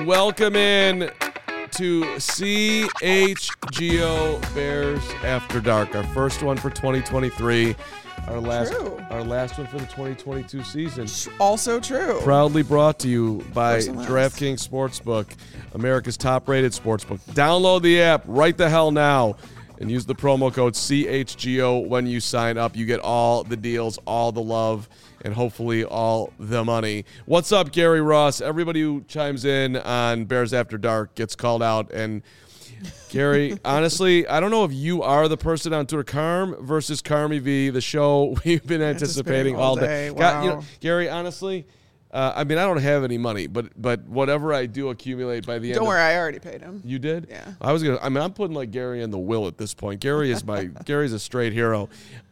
welcome in to CHGO Bears After Dark, our first one for 2023, our last one for the 2022 season. Also true. Proudly brought to you by DraftKings Sportsbook, America's top-rated sportsbook. Download the app right the hell now and use the promo code CHGO when you sign up. You get all the deals, all the love, and hopefully all the money. What's up, Gary Ross? Everybody who chimes in on Bears After Dark gets called out. And Gary, honestly, I don't know if you are the person on Twitter. Carm versus Carmy V, the show we've been anticipating all day. Wow. Gary, honestly, I don't have any money, but whatever I do accumulate by the end. Don't worry, I already paid him. You did? Yeah. I'm putting like Gary in the will at this point. Gary's a straight hero.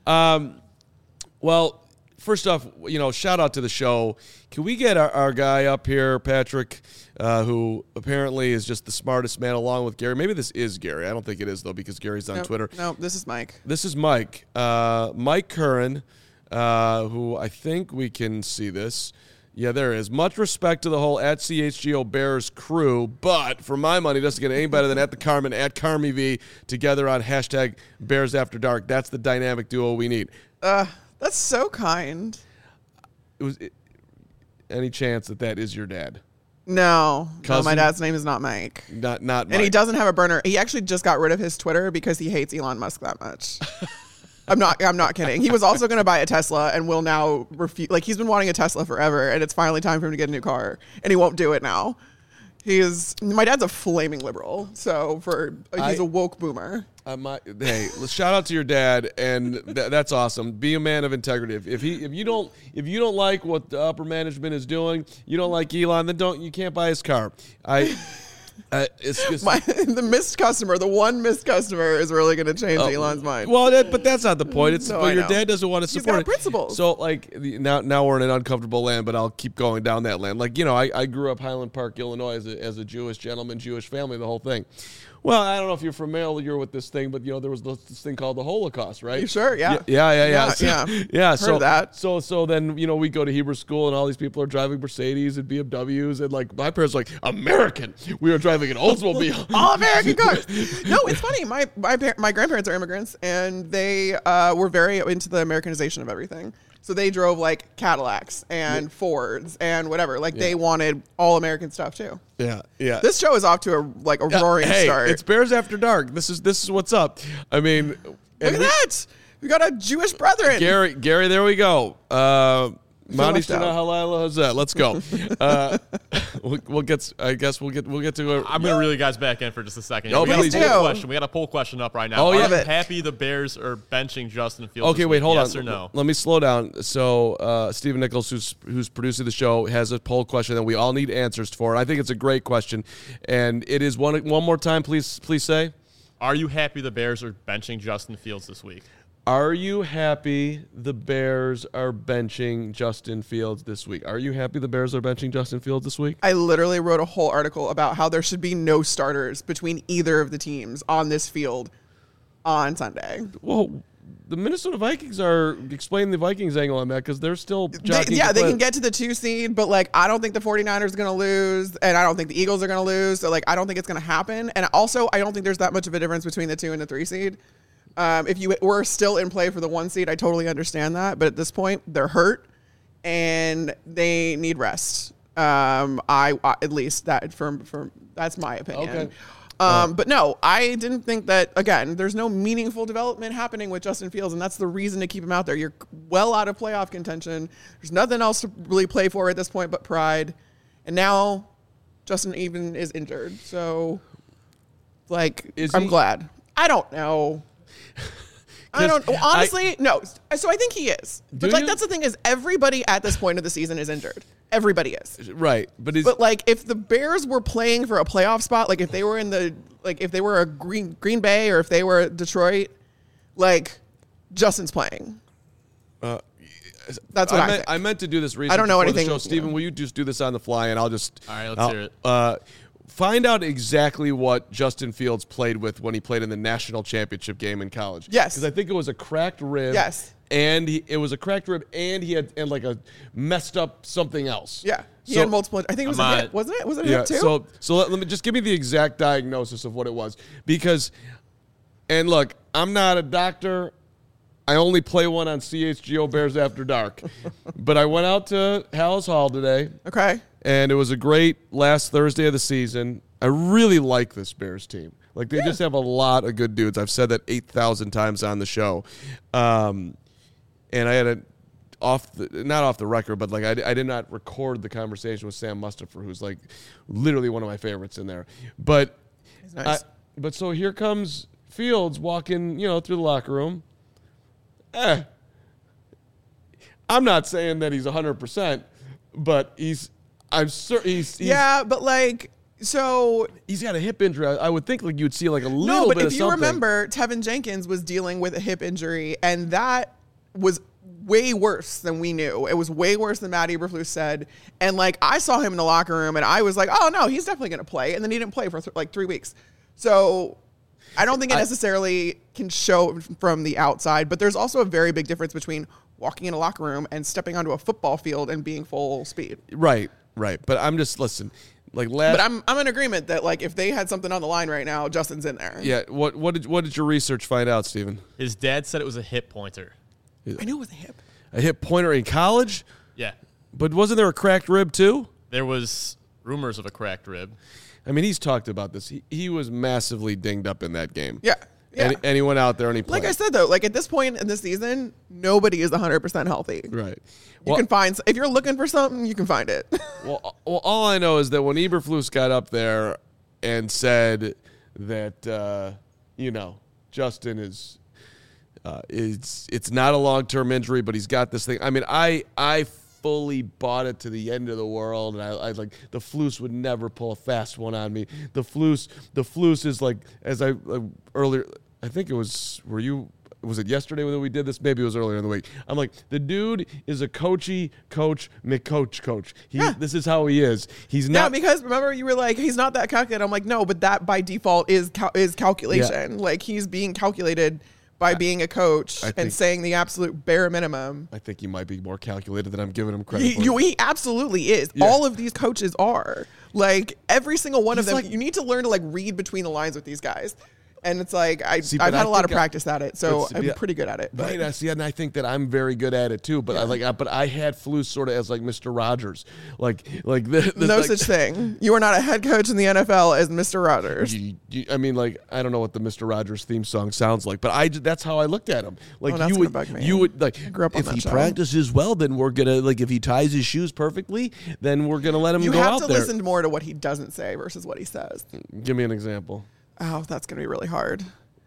Well, first off, shout out to the show. Can we get our guy up here, Patrick, who apparently is just the smartest man along with Gary? Maybe this is Gary. I don't think it is, though, because Gary's on Twitter. No, this is Mike. This is Mike. Mike Curran, who I think we can see this. Yeah, there is. Much respect to the whole at CHGO Bears crew, but for my money, it doesn't get any better than at the Carmen, at Carmy V, together on hashtag Bears After Dark. That's the dynamic duo we need. That's so kind. Any chance that is your dad? No, Cousin? my dad's name is not Mike. Not Mike. And he doesn't have a burner. He actually just got rid of his Twitter because he hates Elon Musk that much. I'm not kidding. He was also going to buy a Tesla and will now refuse. Like, he's been wanting a Tesla forever, and it's finally time for him to get a new car, and he won't do it now. My dad's a flaming liberal, so he's a woke boomer. Hey, let's shout out to your dad, and that's awesome. Be a man of integrity. If you don't like what the upper management is doing, you don't like Elon, then you can't buy his car. The one missed customer is really going to change Elon's mind. Well, but that's not the point. Your dad doesn't want to support He's got principles. So, now we're in an uncomfortable land, but I'll keep going down that land. I grew up Highland Park, Illinois, as a Jewish gentleman, Jewish family, the whole thing. Well, I don't know if you're familiar with this thing, but there was this thing called the Holocaust, right? You sure? Yeah. Yeah. Heard of that. So then we go to Hebrew school, and all these people are driving Mercedes and BMWs, and my parents are like, American. We are driving an Oldsmobile. All American cars. No, it's funny. My grandparents are immigrants, and they were very into the Americanization of everything. So they drove Cadillacs and Fords and whatever. They wanted all American stuff too. Yeah. This show is off to a roaring start. It's Bears After Dark. This is what's up. I mean, look at that. We got a Jewish brethren. Gary, there we go. Mani Shana Halala Hazeh. Let's go. We'll get to it. I'm going to reel you guys back in for just a second. Oh, we please got a poll question. We got a poll question up right now. Oh, yeah. Are you happy the Bears are benching Justin Fields? Okay, wait, hold on. Yes or no? Let me slow down. So Stephen Nichols, who's producing the show, has a poll question that we all need answers for. I think it's a great question, and it is one more time. Please say. Are you happy the Bears are benching Justin Fields this week? Are you happy the Bears are benching Justin Fields this week? Are you happy the Bears are benching Justin Fields this week? I literally wrote a whole article about how there should be no starters between either of the teams on this field on Sunday. Well, the Minnesota Vikings are explaining the Vikings angle on that because they're still jockeying. They can get to the 2 seed, but I don't think the 49ers are going to lose, and I don't think the Eagles are going to lose. So I don't think it's going to happen. And also, I don't think there's that much of a difference between the 2 and the 3 seed. If you were still in play for the 1 seed, I totally understand that. But at this point, they're hurt and they need rest. At least that's my opinion. Okay. But no, I didn't think that, again, there's no meaningful development happening with Justin Fields, and that's the reason to keep him out there. You're well out of playoff contention. There's nothing else to really play for at this point but pride. And now Justin even is injured. So, I'm glad. I don't know. Honestly, no. So I think he is. But that's the thing is everybody at this point of the season is injured. Everybody is. Right. But if the Bears were playing for a playoff spot, if they were if they were a Green Bay or if they were Detroit, Justin's playing. That's what I think. I meant to do this research. I don't know anything. So, Stephen, will you just do this on the fly and I'll just all right, let's hear it. Find out exactly what Justin Fields played with when he played in the national championship game in college. Yes. Because I think it was a cracked rib. Yes. And it was a cracked rib, and he had like a messed up something else. Yeah. He had multiple. I think it was a hip, wasn't it? Was it a hip too? So let me just give me the exact diagnosis of what it was. Because, and look, I'm not a doctor. I only play one on CHGO Bears After Dark. But I went out to Hallis Hall today. Okay. And it was a great last Thursday of the season. I really like this Bears team. Like, they just have a lot of good dudes. I've said that 8,000 times on the show. And I had not off the record, but like I did not record the conversation with Sam Mustipher, who's like literally one of my favorites in there. But He's nice. But so here comes Fields walking, through the locker room. I'm not saying that he's 100%, but I'm certain he's yeah, but like. So he's got a hip injury. I would think like you'd see like a little bit of something. No, but if you remember, Tevin Jenkins was dealing with a hip injury, and that was way worse than we knew. It was way worse than Matt Eberflus said. And like I saw him in the locker room, and I was like, oh no, he's definitely going to play. And then he didn't play for like 3 weeks. So I don't think it necessarily can show from the outside. But there's also a very big difference between walking in a locker room and stepping onto a football field and being full speed. Right. But I'm just listen. But I'm in agreement that like if they had something on the line right now, Justin's in there. Yeah. What did your research find out, Steven? His dad said it was a hip pointer. I knew it was a hip. A hip pointer in college? Yeah. But wasn't there a cracked rib too? There was rumors of a cracked rib. I mean, he's talked about this. He was massively dinged up in that game. Yeah. Yeah. And he went out there and he played. Like I said, though, like at this point in the season, nobody is 100% healthy. Right. You can find, if you're looking for something, you can find it. Well, all I know is that when Eberflus got up there and said that, Justin is it's not a long-term injury, but he's got this thing. I mean, I fully bought it to the end of the world, and I like the Flus would never pull a fast one on me. The Flus is like, as I earlier, I think it was, was it yesterday when we did this? Maybe it was earlier in the week. I'm like, the dude is a coach. This is how he is. He's not. Yeah, because remember you were like, he's not that calculated. I'm like, no, but that by default is calculation. Yeah. Like he's being calculated by being a coach and saying the absolute bare minimum. I think he might be more calculated than I'm giving him credit for. He absolutely is. Yeah. All of these coaches are. Like every single one of them. Like, you need to learn to like read between the lines with these guys. And it's like, I've had a lot of practice at it, so I'm pretty good at it. Right, and I think that I'm very good at it too. But I had Flus sort of as like Mr. Rogers, no such thing. You are not a head coach in the NFL as Mr. Rogers. I mean, like I don't know what the Mr. Rogers theme song sounds like, but that's how I looked at him. Like you would like if he practices well, then we're gonna like if he ties his shoes perfectly, then we're gonna let him go out there. You have to listen more to what he doesn't say versus what he says. Give me an example. Oh, that's going to be really hard.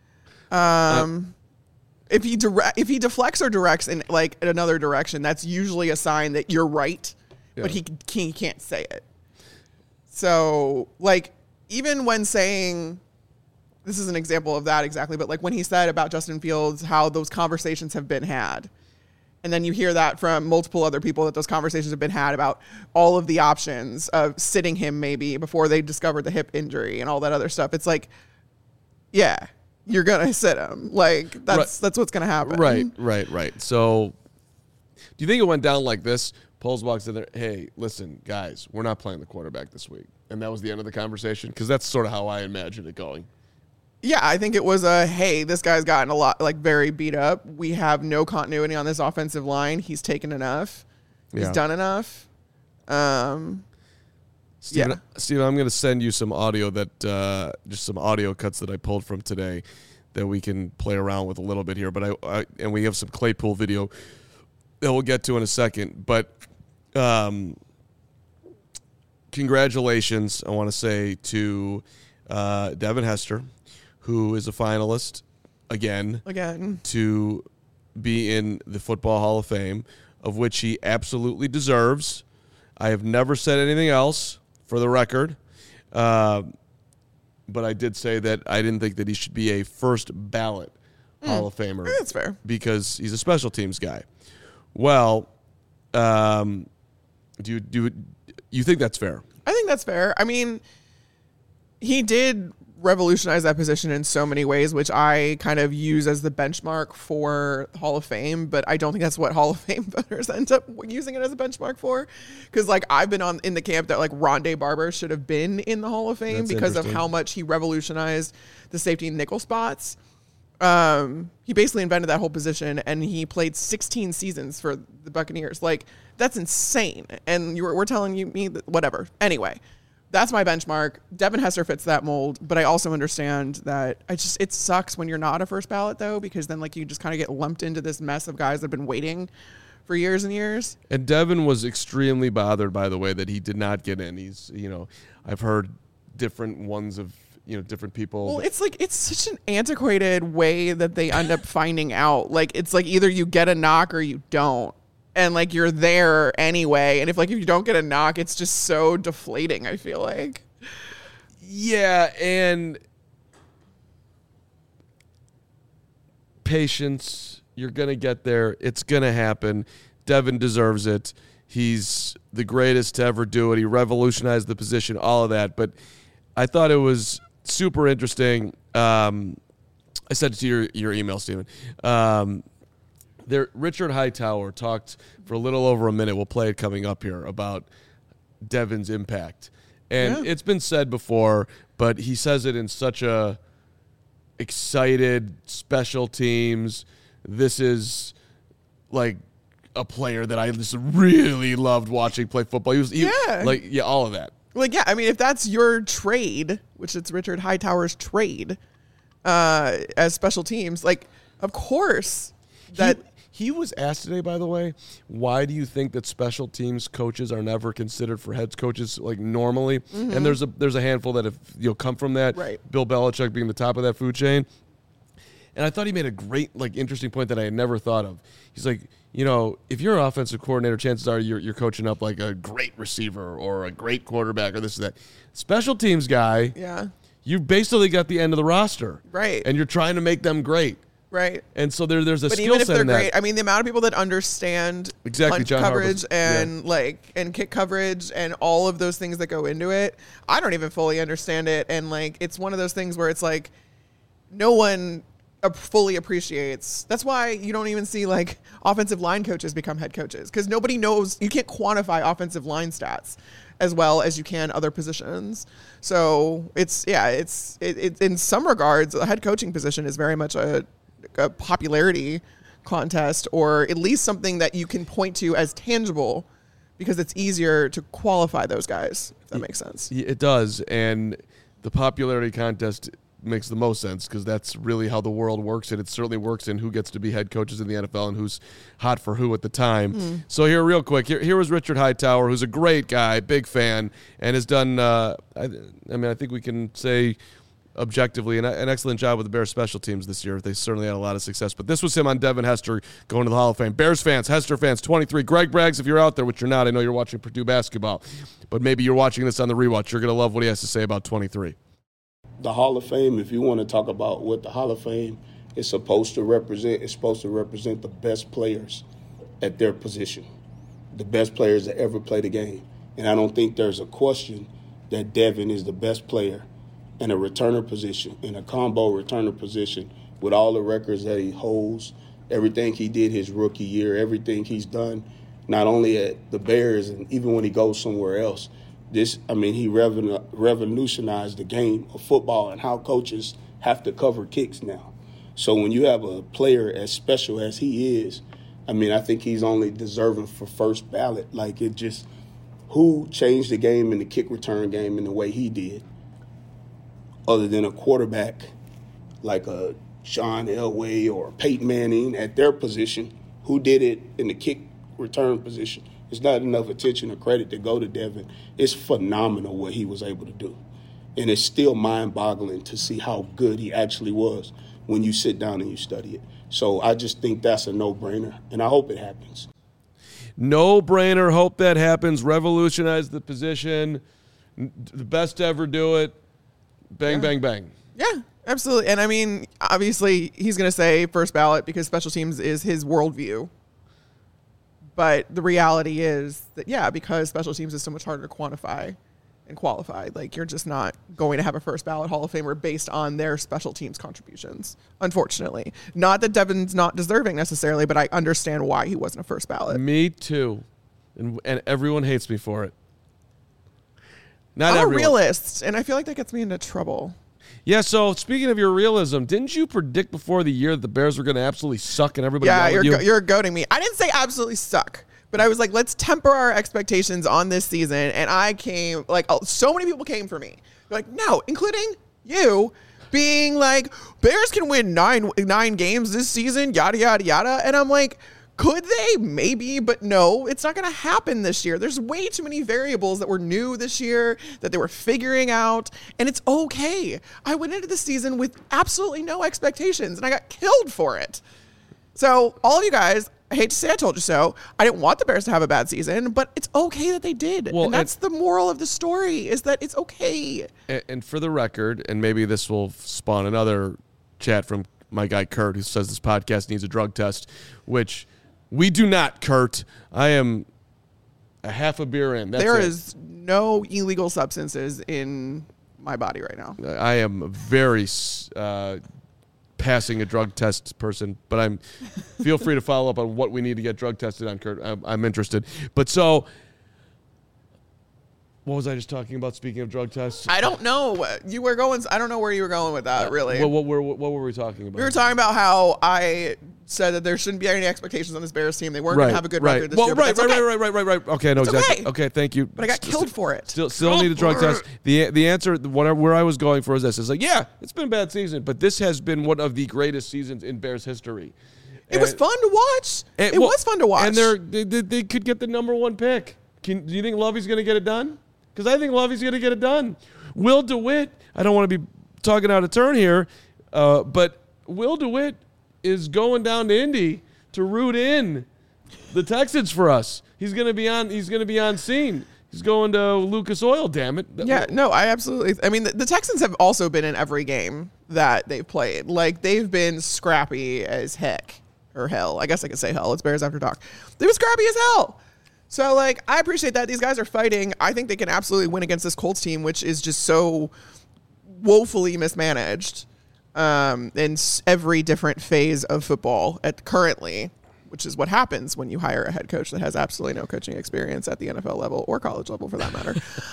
If he deflects or directs in like in another direction, that's usually a sign that you're right, but he can't say it. So, like, even when saying, this is an example of that exactly, but like when he said about Justin Fields, how those conversations have been had. And then you hear that from multiple other people that those conversations have been had about all of the options of sitting him maybe before they discovered the hip injury and all that other stuff. It's like, yeah, you're going to sit him. Like, that's what's going to happen. Right. So do you think it went down like this? Poles walks in there, hey, listen, guys, we're not playing the quarterback this week. And that was the end of the conversation? Because that's sort of how I imagined it going. Yeah, I think it was hey, this guy's gotten a lot, like, very beat up. We have no continuity on this offensive line. He's taken enough. He's done enough. Steven, I'm going to send you some audio just some audio cuts that I pulled from today that we can play around with a little bit here. But and we have some Claypool video that we'll get to in a second. But congratulations, I want to say, to Devin Hester, who is a finalist again to be in the Football Hall of Fame, of which he absolutely deserves. I have never said anything else, for the record, but I did say that I didn't think that he should be a first ballot Hall of Famer. That's fair. Because he's a special teams guy. Well, do you think that's fair? I think that's fair. I mean, he did revolutionized that position in so many ways, which I kind of use as the benchmark for Hall of Fame, but I don't think that's what Hall of Fame voters end up using it as a benchmark for. Because like I've been in the camp that like Rondé Barber should have been in the Hall of Fame because of how much he revolutionized the safety and nickel spots. He basically invented that whole position, and he played 16 seasons for the Buccaneers. Like that's insane. And we're telling me that whatever. Anyway. That's my benchmark. Devin Hester fits that mold, but I also understand that it sucks when you're not a first ballot though, because then like you just kind of get lumped into this mess of guys that have been waiting for years and years. And Devin was extremely bothered by the way that he did not get in. He's, I've heard different ones of, different people. Well, it's like, it's such an antiquated way that they end up finding out. Like, it's like either you get a knock or you don't. And like you're there anyway, and if you don't get a knock, it's just so deflating. I feel like. Yeah, and patience. You're gonna get there. It's gonna happen. Devin deserves it. He's the greatest to ever do it. He revolutionized the position. All of that, but I thought it was super interesting. I sent it to your email, Stephen. Richard Hightower talked for a little over a minute. We'll play it coming up here about Devin's impact. And it's been said before, but he says it in such a excited special teams. This is like a player that I just really loved watching play football. He was all of that. Like, yeah, I mean, if that's your trade, which it's Richard Hightower's trade as special teams, like, of course that... He was asked today, by the way, why do you think that special teams coaches are never considered for head coaches like normally? Mm-hmm. And there's a handful that have come from that. Right. Bill Belichick being the top of that food chain. And I thought he made a great, interesting point that I had never thought of. He's like, if you're an offensive coordinator, chances are you're coaching up like a great receiver or a great quarterback or this or that. Special teams guy, you've basically got the end of the roster. Right. And you're trying to make them great. Right. And so there's a skill set in that. But even if they're great, I mean, the amount of people that understand punch John coverage and kick coverage and all of those things that go into it, I don't even fully understand it. And it's one of those things where it's like no one fully appreciates. That's why you don't even see offensive line coaches become head coaches, because nobody knows. You can't quantify offensive line stats as well as you can other positions. So it's in some regards, a head coaching position is very much a popularity contest, or at least something that you can point to as tangible, because it's easier to qualify those guys, if that makes sense. It does, and the popularity contest makes the most sense because that's really how the world works, and it certainly works in who gets to be head coaches in the NFL and who's hot for who at the time. So here, real quick, here was Richard Hightower, who's a great guy, big fan, and has done, I think we can say objectively an excellent job with the Bears special teams this year. They certainly had a lot of success. But this was him on Devin Hester going to the Hall of Fame. Bears fans, Hester fans, 23. Greg Braggs, if you're out there, which you're not, I know you're watching Purdue basketball, but maybe you're watching this on the rewatch. You're going to love what he has to say about 23. The Hall of Fame, if you want to talk about what the Hall of Fame is supposed to represent, it's supposed to represent the best players at their position, the best players that ever played the game. And I don't think there's a question that Devin is the best player in a returner position, in a combo returner position, with all the records that he holds, everything he did his rookie year, everything he's done, not only at the Bears and even when he goes somewhere else. He revolutionized the game of football and how coaches have to cover kicks now. So when you have a player as special as he is, I think he's only deserving for first ballot. Who changed the game in the kick return game in the way he did, other than a quarterback like a John Elway or Peyton Manning at their position, who did it in the kick return position? It's not enough attention or credit to go to Devin. It's phenomenal what he was able to do. And it's still mind-boggling to see how good he actually was when you sit down and you study it. So I just think that's a no-brainer, and I hope it happens. No-brainer. Hope that happens. Revolutionize the position. The best to ever do it. Bang, bang, bang. Yeah, absolutely. And, obviously he's going to say first ballot because special teams is his worldview. But the reality is that, because special teams is so much harder to quantify, and qualified. Like, you're just not going to have a first ballot Hall of Famer based on their special teams contributions, unfortunately. Not that Devin's not deserving necessarily, but I understand why he wasn't a first ballot. Me too. And everyone hates me for it. Not I'm everyone. a realist, and I feel like that gets me into trouble. Yeah, so speaking of your realism, didn't you predict before the year that the Bears were going to absolutely suck and everybody yelled at you? You're goading me. I didn't say absolutely suck. But I was like, let's temper our expectations on this season. And I came, like, so many people came for me. They're like, no, including you, being like, Bears can win nine games this season, yada, yada, yada. And I'm like, could they? Maybe, but no, it's not going to happen this year. There's way too many variables that were new this year that they were figuring out. And it's okay. I went into the season with absolutely no expectations, and I got killed for it. So all of you guys, I hate to say I told you so. I didn't want the Bears to have a bad season, but it's okay that they did. Well, and that's the moral of the story, is that it's okay. And for the record, and maybe this will spawn another chat from my guy Kurt, who says this podcast needs a drug test, which we do not, Kurt. I am a half a beer in. There is no illegal substances in my body right now. I am very passing a drug test person, but feel free to follow up on what we need to get drug tested on, Kurt. I'm interested. But so, what was I just talking about? Speaking of drug tests, I don't know. You were going. I don't know where you were going with that. Really. What were we talking about? We were talking about how I said that there shouldn't be any expectations on this Bears team. They weren't going to have a good record this year. Right. Okay, no, exactly. Okay. Okay, thank you. But I got killed for it. Still need a drug test. The answer, where I was going for is this: is like, yeah, it's been a bad season, but this has been one of the greatest seasons in Bears history. It was fun to watch. It was fun to watch. And they could get the number one pick. Do you think Lovey's going to get it done? Because I think Lovey's going to get it done. Will DeWitt, I don't want to be talking out of turn here, but Will DeWitt is going down to Indy to root in the Texans for us. He's going to be on scene. He's going to Lucas Oil, damn it. Yeah, no, I absolutely. I mean, the Texans have also been in every game that they've played. Like, they've been scrappy as heck. Or hell. I guess I could say hell. It's Bears After Dark. They were scrappy as hell. So, like, I appreciate that. These guys are fighting. I think they can absolutely win against this Colts team, which is just so woefully mismanaged in every different phase of football currently, which is what happens when you hire a head coach that has absolutely no coaching experience at the NFL level or college level, for that matter.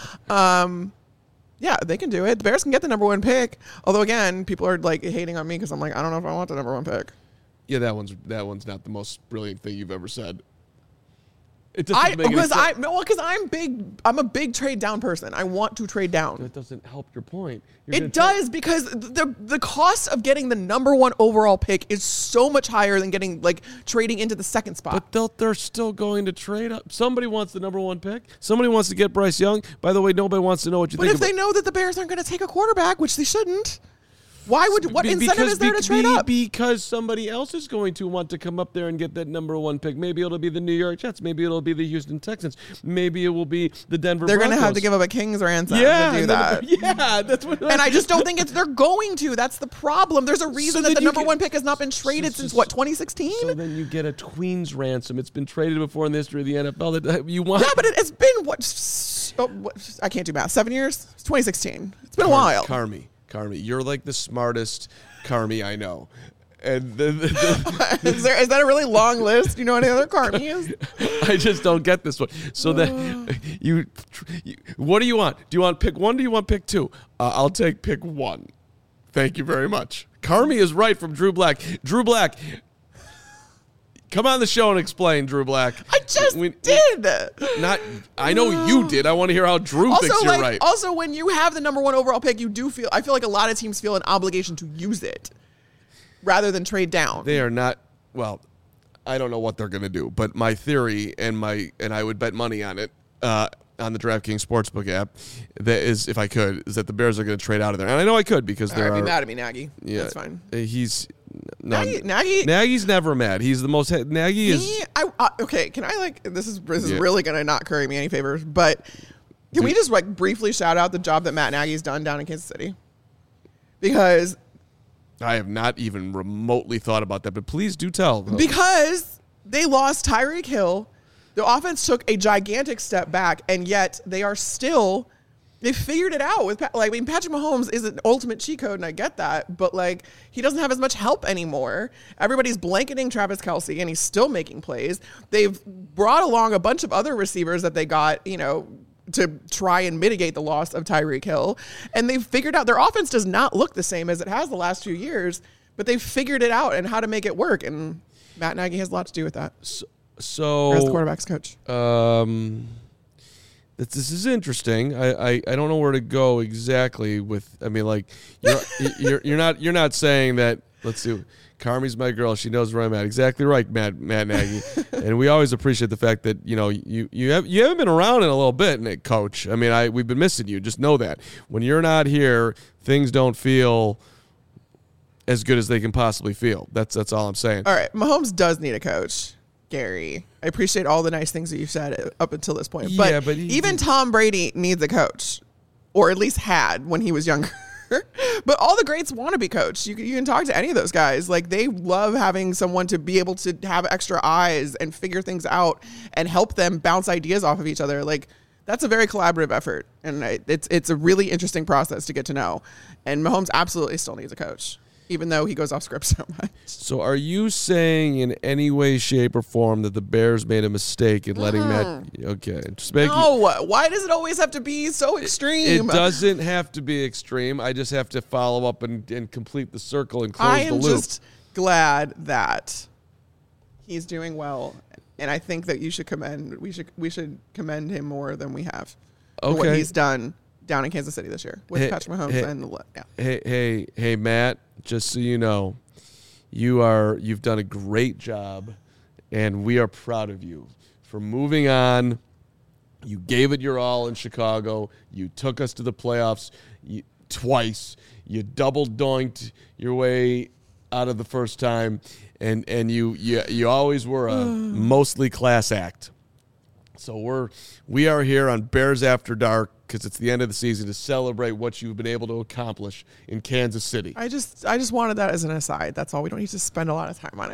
Yeah, they can do it. The Bears can get the number one pick. Although, again, people are, like, hating on me because I'm like, I don't know if I want the number one pick. Yeah, that one's not the most brilliant thing you've ever said. Because I'm a big trade down person. I want to trade down. That doesn't help your point. It does, because the cost of getting the number one overall pick is so much higher than getting, like, trading into the second spot. But they're still going to trade up. Somebody wants the number one pick. Somebody wants to get Bryce Young. By the way, nobody wants to know what you think. But if they know that the Bears aren't going to take a quarterback, which they shouldn't. What incentive is there to trade up? Because somebody else is going to want to come up there and get that number one pick. Maybe it'll be the New York Jets. Maybe it'll be the Houston Texans. Maybe it will be the Denver Broncos. They're going to have to give up a king's ransom to do that. Yeah, that's what. And I just don't think they're going to. That's the problem. There's a reason that the number one pick has not been traded since 2016. So then you get a queen's ransom. It's been traded before in the history of the NFL. That you want. Yeah, but it's been what? I can't do math. 7 years? It's 2016. It's been a while. Carmi, you're like the smartest Carmi I know. And is that a really long list? You know any other Carmis? I just don't get this one. So that you, what do you want? Do you want pick one? Do you want pick two? I'll take pick one. Thank you very much. Carmi is right from Drew Black. Drew Black, come on the show and explain, Drew Black. I just did. I know you did. I want to hear how Drew thinks you're right. Also, when you have the number one overall pick, I feel like a lot of teams feel an obligation to use it rather than trade down. They are not. Well, I don't know what they're going to do, but my theory and I would bet money on it on the DraftKings Sportsbook app. That is, if I could, is that the Bears are going to trade out of there, and I know I could because they're. I'd be mad at me, Nagy. Yeah, that's fine. Nagy's never mad. He's the most. Nagy is. Okay, can I this is really gonna not curry me any favors, but can we just briefly shout out the job that Matt Nagy's done down in Kansas City? Because I have not even remotely thought about that, but please do tell. Because they lost Tyreek Hill, the offense took a gigantic step back, and yet they are still They figured it out with Patrick Mahomes is an ultimate cheat code, and I get that, but like he doesn't have as much help anymore. Everybody's blanketing Travis Kelce, and he's still making plays. They've brought along a bunch of other receivers that they got, to try and mitigate the loss of Tyreek Hill, and they've figured out their offense does not look the same as it has the last few years, but they've figured it out and how to make it work. And Matt Nagy has a lot to do with that. So as the quarterback's coach. This is interesting. I don't know where to go exactly with. I mean, like you're not saying that. Let's see. Carmi's my girl. She knows where I'm at. Exactly right, Matt Nagy. And we always appreciate the fact that you haven't been around in a little bit, Nick, Coach. I mean, we've been missing you. Just know that when you're not here, things don't feel as good as they can possibly feel. That's all I'm saying. All right, Mahomes does need a coach. Gary, I appreciate all the nice things that you've said up until this point. But even Tom Brady needs a coach, or at least had when he was younger. But all the greats want to be coached. You can talk to any of those guys. Like, they love having someone to be able to have extra eyes and figure things out and help them bounce ideas off of each other. Like, that's a very collaborative effort. And it's a really interesting process to get to know. And Mahomes absolutely still needs a coach, even though he goes off script so much. So are you saying in any way, shape, or form that the Bears made a mistake in letting Matt... Okay. Why does it always have to be so extreme? It doesn't have to be extreme. I just have to follow up and complete the circle and close the loop. I am just glad that he's doing well, and I think that we should commend him more than we have for what he's done down in Kansas City this year with Patrick Mahomes. Hey, Matt, just so you know, you've done a great job, and we are proud of you for moving on. You gave it your all in Chicago. You took us to the playoffs twice. You double doinked your way out of the first time, and you always were a mostly class act. So we are here on Bears After Dark because it's the end of the season to celebrate what you've been able to accomplish in Kansas City. I just wanted that as an aside. That's all. We don't need to spend a lot of time on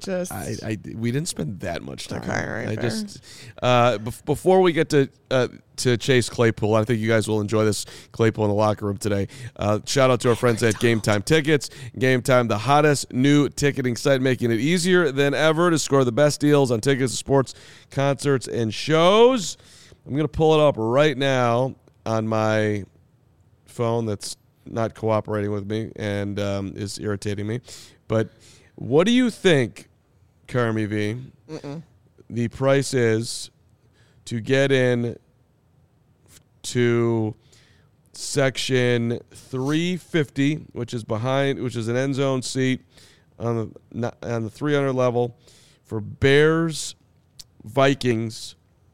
it. We didn't spend that much time. Okay, right. Before we get to Chase Claypool, I think you guys will enjoy this Claypool in the locker room today. Shout out to our friends at Game Time Tickets. Game Time, the hottest new ticketing site, making it easier than ever to score the best deals on tickets to sports, concerts, and shows. I'm going to pull it up right now on my phone that's not cooperating with me and is irritating me. But what do you think, Carmi V, the price is to get in to section 350, which is an end zone seat on the 300 level for Bears Vikings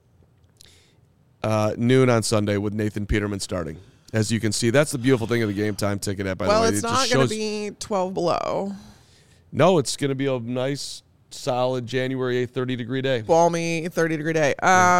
noon on Sunday with Nathan Peterman starting? As you can see, that's the beautiful thing of the Game Time Ticket app, by the way. Well, it's not going to be 12 below. No, it's going to be a nice, solid January 8th, 30-degree day. Balmy 30-degree day.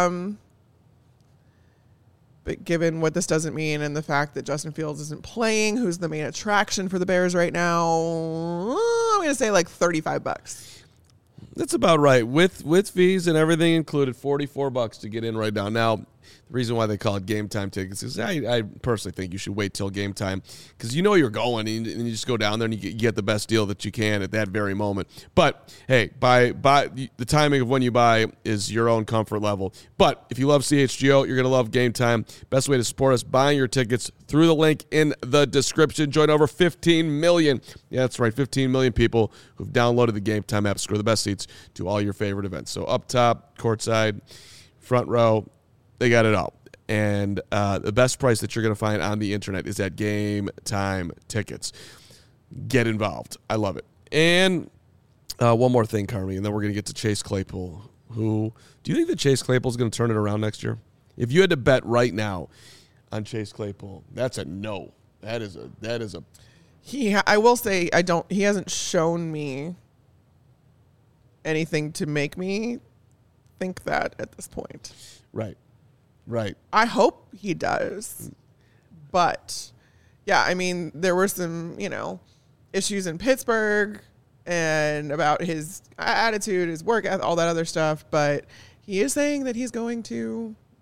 But given what this doesn't mean and the fact that Justin Fields isn't playing, who's the main attraction for the Bears right now, I'm going to say like $35. That's about right. With fees and everything included, $44 to get in right now. Now, the reason why they call it Game Time Tickets is I personally think you should wait till game time because you know you're going and you just go down there and you get the best deal that you can at that very moment. But, hey, buy the timing of when you buy is your own comfort level. But if you love CHGO, you're going to love Game Time. Best way to support us, buying your tickets through the link in the description. Join over 15 million. Yeah, that's right, 15 million people who've downloaded the Game Time app. Score the best seats to all your favorite events. So up top, courtside, front row, they got it all. And the best price that you're going to find on the internet is at Game Time Tickets. Get involved. I love it. And one more thing, Carmi, and then we're going to get to Chase Claypool. Do you think that Chase Claypool is going to turn it around next year? If you had to bet right now on Chase Claypool, that's a no. That is a. I will say he hasn't shown me anything to make me think that at this point. Right. I hope he does. But, yeah, I mean, there were some, issues in Pittsburgh and about his attitude, his work, all that other stuff. But he is saying that he's going to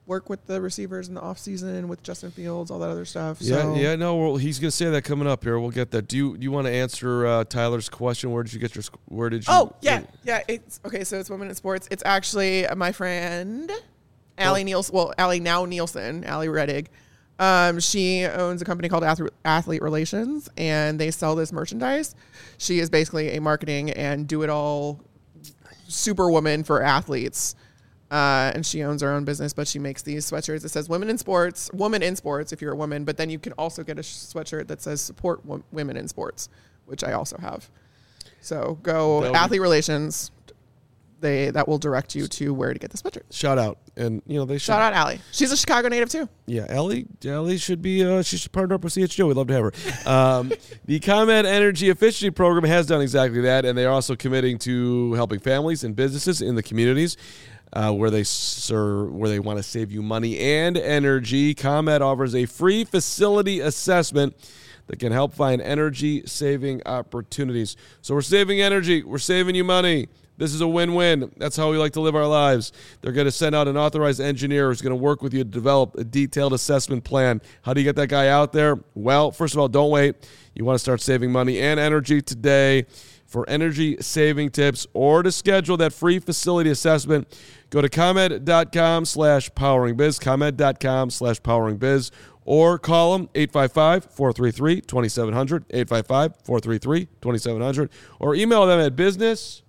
work with the receivers in the offseason with Justin Fields, all that other stuff. Yeah, So. yeah, no, well, he's gonna say that coming up here. We'll get that. Do you want to answer Tyler's question? Where did you get your? Where did you? Oh yeah. It's okay. So it's Women in Sports. It's actually my friend Allie Nielsen. Well, Allie now Nielsen, Allie Reddig. She owns a company called Athlete Relations, and they sell this merchandise. She is basically a marketing and do-it-all superwoman for athletes. And she owns her own business, but she makes these sweatshirts. It says woman in sports if you're a woman, but then you can also get a sweatshirt that says support women in sports, which I also have. So go Athlete Relations. That will direct you to where to get the sweatshirt. Shout out. And, they should. Shout out Allie. She's a Chicago native, too. Yeah, Allie should be, she should partner up with CHGO. We'd love to have her. The ComEd Energy Efficiency Program has done exactly that, and they are also committing to helping families and businesses in the communities where they want to save you money and energy. ComEd offers a free facility assessment that can help find energy-saving opportunities. So we're saving energy. We're saving you money. This is a win-win. That's how we like to live our lives. They're going to send out an authorized engineer who's going to work with you to develop a detailed assessment plan. How do you get that guy out there? Well, first of all, don't wait. You want to start saving money and energy today. For energy-saving tips or to schedule that free facility assessment, go to ComEd.com/poweringbiz, ComEd.com/poweringbiz, or call them 855-433-2700, 855-433-2700, or email them at business.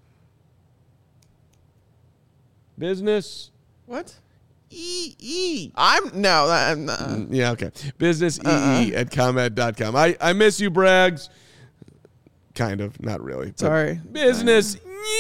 What? EE. Yeah, okay. Business EE at ComEd.com. I miss you, Braggs. Kind of, not really. Sorry. Business.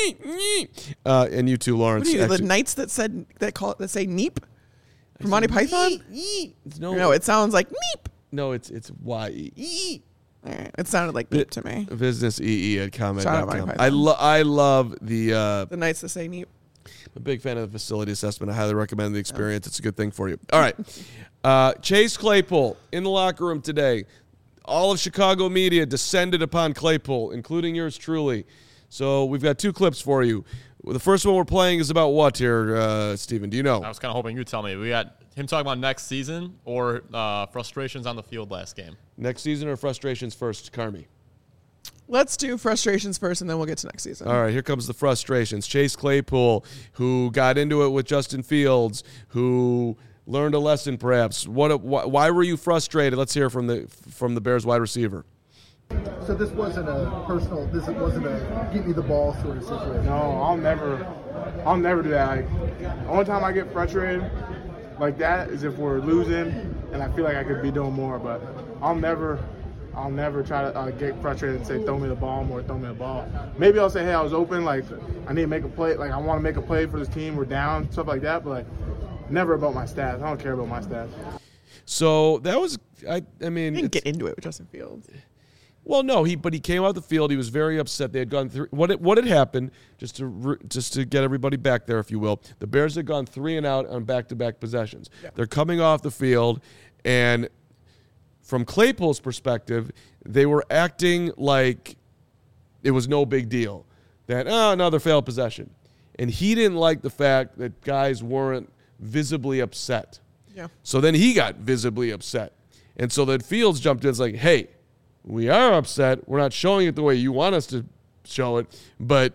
And you too, Lawrence. What are you, the Knights that say Neep from Monty Python? No, it sounds like Neep. No, it's YE. All right. It sounded like Neep to me. Business EE at ComEd.com. I love the Knights that say Neep. I'm a big fan of the facility assessment. I highly recommend the experience. It's a good thing for you. All right. Chase Claypool in the locker room today. All of Chicago media descended upon Claypool, including yours truly. So we've got two clips for you. The first one we're playing is about what here, Steven? Do you know? I was kind of hoping you'd tell me. We got him talking about next season or frustrations on the field last game. Next season or frustrations first, Carmi? Let's do frustrations first, and then we'll get to next season. All right, here comes the frustrations. Chase Claypool, who got into it with Justin Fields, who learned a lesson perhaps. Why were you frustrated? Let's hear from the Bears wide receiver. So this wasn't a personal, this wasn't a give me the ball sort of situation. No, I'll never do that. Like, the only time I get frustrated like that is if we're losing and I feel like I could be doing more, but I'll never try to get frustrated and say, throw me the ball more, throw me the ball. Maybe I'll say, hey, I was open, like, I need to make a play, like, I want to make a play for this team, we're down, stuff like that, but, like, never about my stats. I don't care about my stats. So that was, I mean. He didn't get into it with Justin Fields. Well, no, but he came out the field. He was very upset. They had gone through. What had happened? Just to get everybody back there, if you will. The Bears had gone 3 and out on back-to-back possessions. Yeah. They're coming off the field, and from Claypool's perspective, they were acting like it was no big deal. That another failed possession, and he didn't like the fact that guys weren't visibly upset. Yeah. So then he got visibly upset, and so then Fields jumped in. It's like, hey. We are upset. We're not showing it the way you want us to show it, but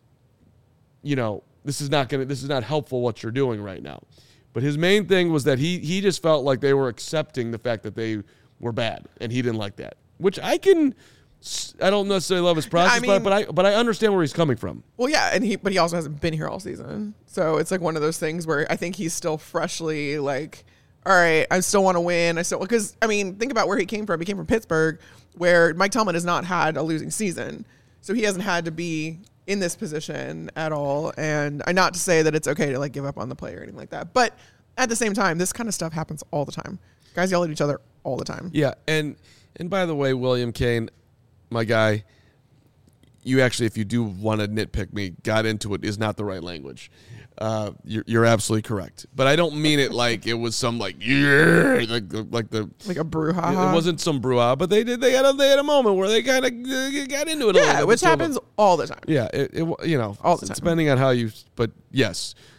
this is not helpful what you're doing right now. But his main thing was that he just felt like they were accepting the fact that they were bad, and he didn't like that. Which I don't necessarily love his process, but I understand where he's coming from. Well, yeah, but he also hasn't been here all season, so it's like one of those things where I think he's still freshly like, all right, I still want to win. Because think about where he came from. He came from Pittsburgh, where Mike Tomlin has not had a losing season. So he hasn't had to be in this position at all. And not to say that it's okay to like give up on the play or anything like that. But at the same time, this kind of stuff happens all the time. Guys yell at each other all the time. Yeah. And by the way, William Kane, my guy, you actually, if you do want to nitpick me, got into it is not the right language. You're absolutely correct, but I don't mean it like it was some like a brouhaha. It wasn't some brouhaha, but they had a moment where they kind of got into it. Yeah, which happens all the time. Yeah, all the time. Depending on how you. But yes,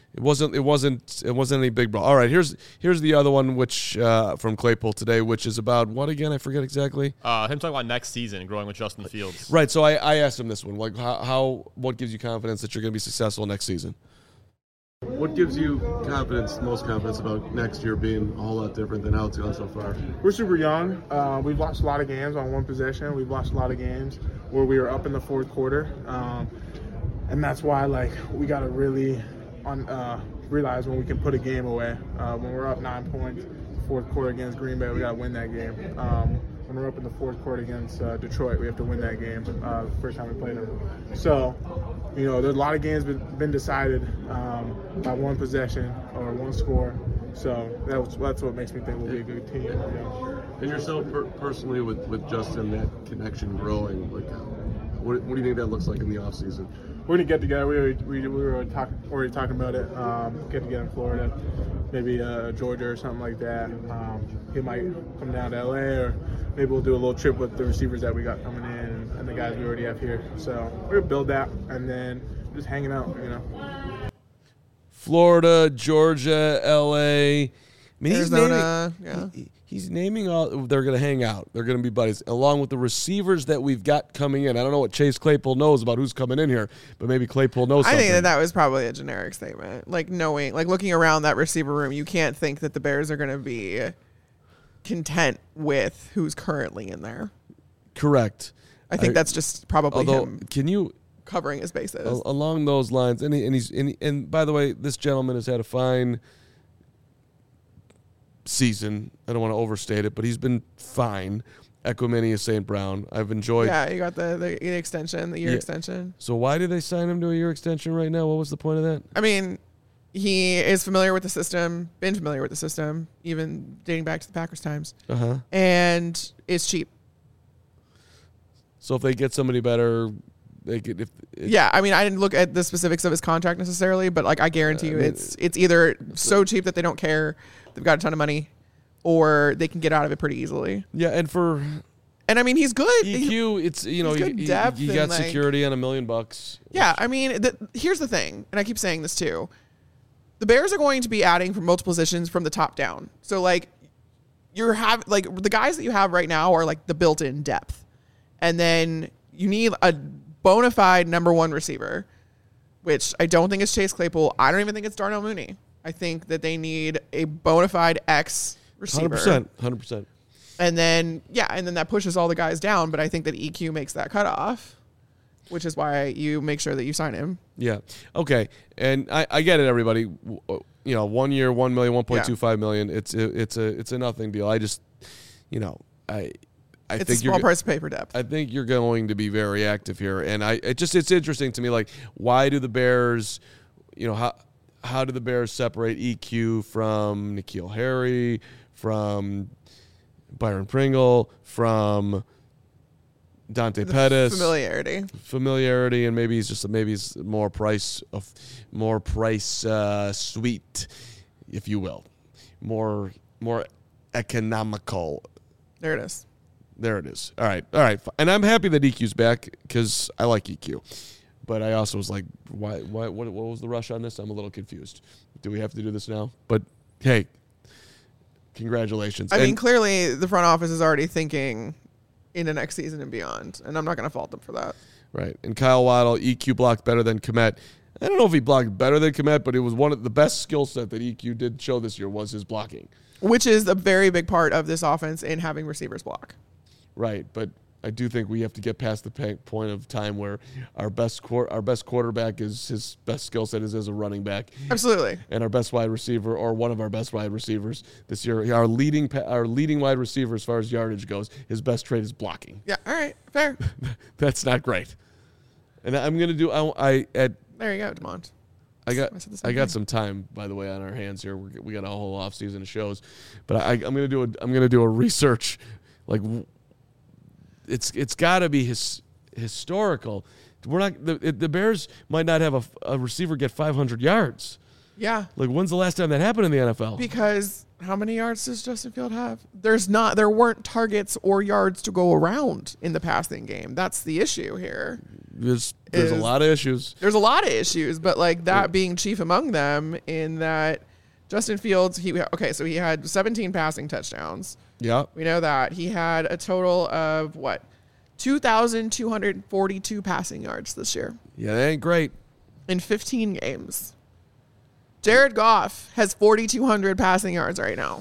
It wasn't any big brawl. All right, here's the other one, which from Claypool today, which is about what again? I forget exactly. Him talking about next season, growing with Justin Fields. Right. So I asked him this one, like what gives you confidence that you're going to be successful next season? What gives you most confidence about next year being a whole lot different than how it's gone so far? We're super young. We've lost a lot of games on one possession. We've lost a lot of games where we were up in the fourth quarter, and that's why we got to really realize when we can put a game away. When we're up 9 points, fourth quarter against Green Bay, we got to win that game. When we're up in the fourth quarter against Detroit, we have to win that game. The first time we played them. So, there's a lot of games been decided by one possession or one score. So that's what makes me think we'll be a good team. And yourself personally with Justin, that connection growing, what do you think that looks like in the offseason? We're gonna get together. We were already talking about it. Get together in Florida, maybe Georgia or something like that. He might come down to LA, or maybe we'll do a little trip with the receivers that we got coming in and the guys we already have here. So we're gonna build that and then just hanging out. Florida, Georgia, LA. Arizona, he's naming all. They're going to hang out. They're going to be buddies, along with the receivers that we've got coming in. I don't know what Chase Claypool knows about who's coming in here, but maybe Claypool knows something. I think that was probably a generic statement. Looking around that receiver room, you can't think that the Bears are going to be content with who's currently in there. Correct. I think that's just probably him. Can you covering his bases along those lines? And by the way, this gentleman has had a fine season. I don't want to overstate it, but he's been fine. Equimania St. Brown. I've enjoyed. Yeah, you got the extension, the year extension. So why did they sign him to a year extension right now? What was the point of that? I mean, he is familiar with the system, been familiar with the system, even dating back to the Packers times. And it's cheap. So if they get somebody better, they could. I mean, I didn't look at the specifics of his contract necessarily, but I guarantee you, it's either so cheap that they don't care, they've got a ton of money, or they can get out of it pretty easily. Yeah, and I mean, he's good. EQ, it's good depth. You got security on $1 million. Yeah, I mean, here's the thing, and I keep saying this too. The Bears are going to be adding from multiple positions from the top down. So the guys that you have right now are the built-in depth, and then you need a bona fide number one receiver, which I don't think is Chase Claypool. I don't even think it's Darnell Mooney. I think that they need a bona fide X receiver. 100%. And then that pushes all the guys down. But I think that EQ makes that cutoff, which is why you make sure that you sign him. Yeah. Okay. And I get it, everybody. 1 year, $1 million, $1.25 million. It's a nothing deal. I just, it's a small price to pay for depth. I think you're going to be very active here, and it's interesting to me. Why do the Bears, how do the Bears separate EQ from N'Keal Harry, from Byron Pringle, from Dante Pettis? Familiarity, and maybe he's more price sweet, if you will, more economical. There it is. All right. And I'm happy that EQ's back because I like EQ. But I also was like, why? What was the rush on this? I'm a little confused. Do we have to do this now? But, hey, congratulations. I mean, clearly the front office is already thinking in the next season and beyond, and I'm not going to fault them for that. Right. And Kyle Waddle, EQ blocked better than Kmet. I don't know if he blocked better than Kmet, but it was one of the best skill set that EQ did show this year was his blocking. Which is a very big part of this offense in having receivers block. Right, but I do think we have to get past the point of time where our best quarterback is his best skill set is as a running back. Absolutely. And our best wide receiver, or one of our best wide receivers this year, our leading wide receiver as far as yardage goes, his best trait is blocking. Yeah. All right. Fair. That's not great. And I'm gonna do. There you go, DeMont. I got some time, by the way, on our hands here. We got a whole off season of shows, but I'm gonna do a research It's got to be historical. We're not the Bears might not have a receiver get 500 yards. Yeah. When's the last time that happened in the NFL? Because how many yards does Justin Field have? There weren't targets or yards to go around in the passing game. That's the issue here. There's a lot of issues. There's a lot of issues, but like that being chief among them in that Justin Fields, he had 17 passing touchdowns. Yeah. We know that. He had a total of 2,242 passing yards this year. Yeah, that ain't great. In 15 games. Jared Goff has 4,200 passing yards right now.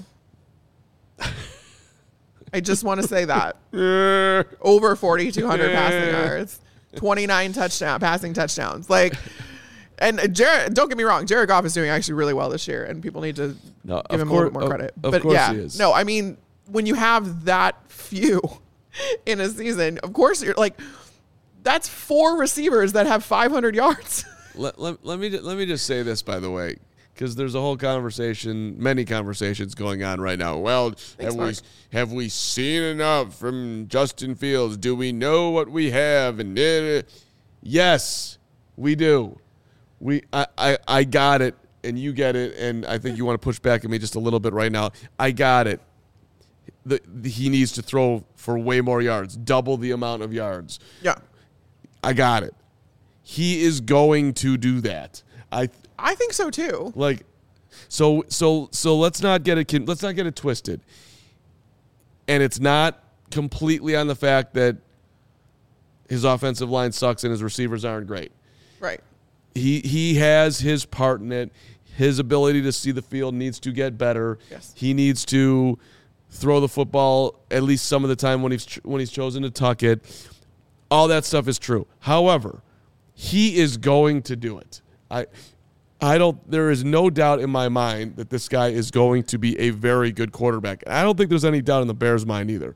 I just want to say that. Over 4,200 passing yards. 29 passing touchdowns. Like, and Jared, don't get me wrong, Jared Goff is doing actually really well this year, and people need to give him a little bit more credit. Of course he is. No, I mean, when you have that few in a season, of course you're like, that's 4 receivers that have 500 yards. Let me just say this, by the way, because there's a whole many conversations going on right now. Well, have we seen enough from Justin Fields? Do we know what we have? And yes, we do. I got it, and you get it, and I think you want to push back at me just a little bit right now. I got it. He needs to throw for way more yards, double the amount of yards. Yeah, I got it. He is going to do that. I think so too. Like, so let's not get it twisted. And it's not completely on the fact that his offensive line sucks and his receivers aren't great. Right. He has his part in it. His ability to see the field needs to get better. Yes. He needs to throw the football at least some of the time when he's chosen to tuck it. All that stuff is true. However, he is going to do it. There is no doubt in my mind that this guy is going to be a very good quarterback. I don't think there's any doubt in the Bears' mind either.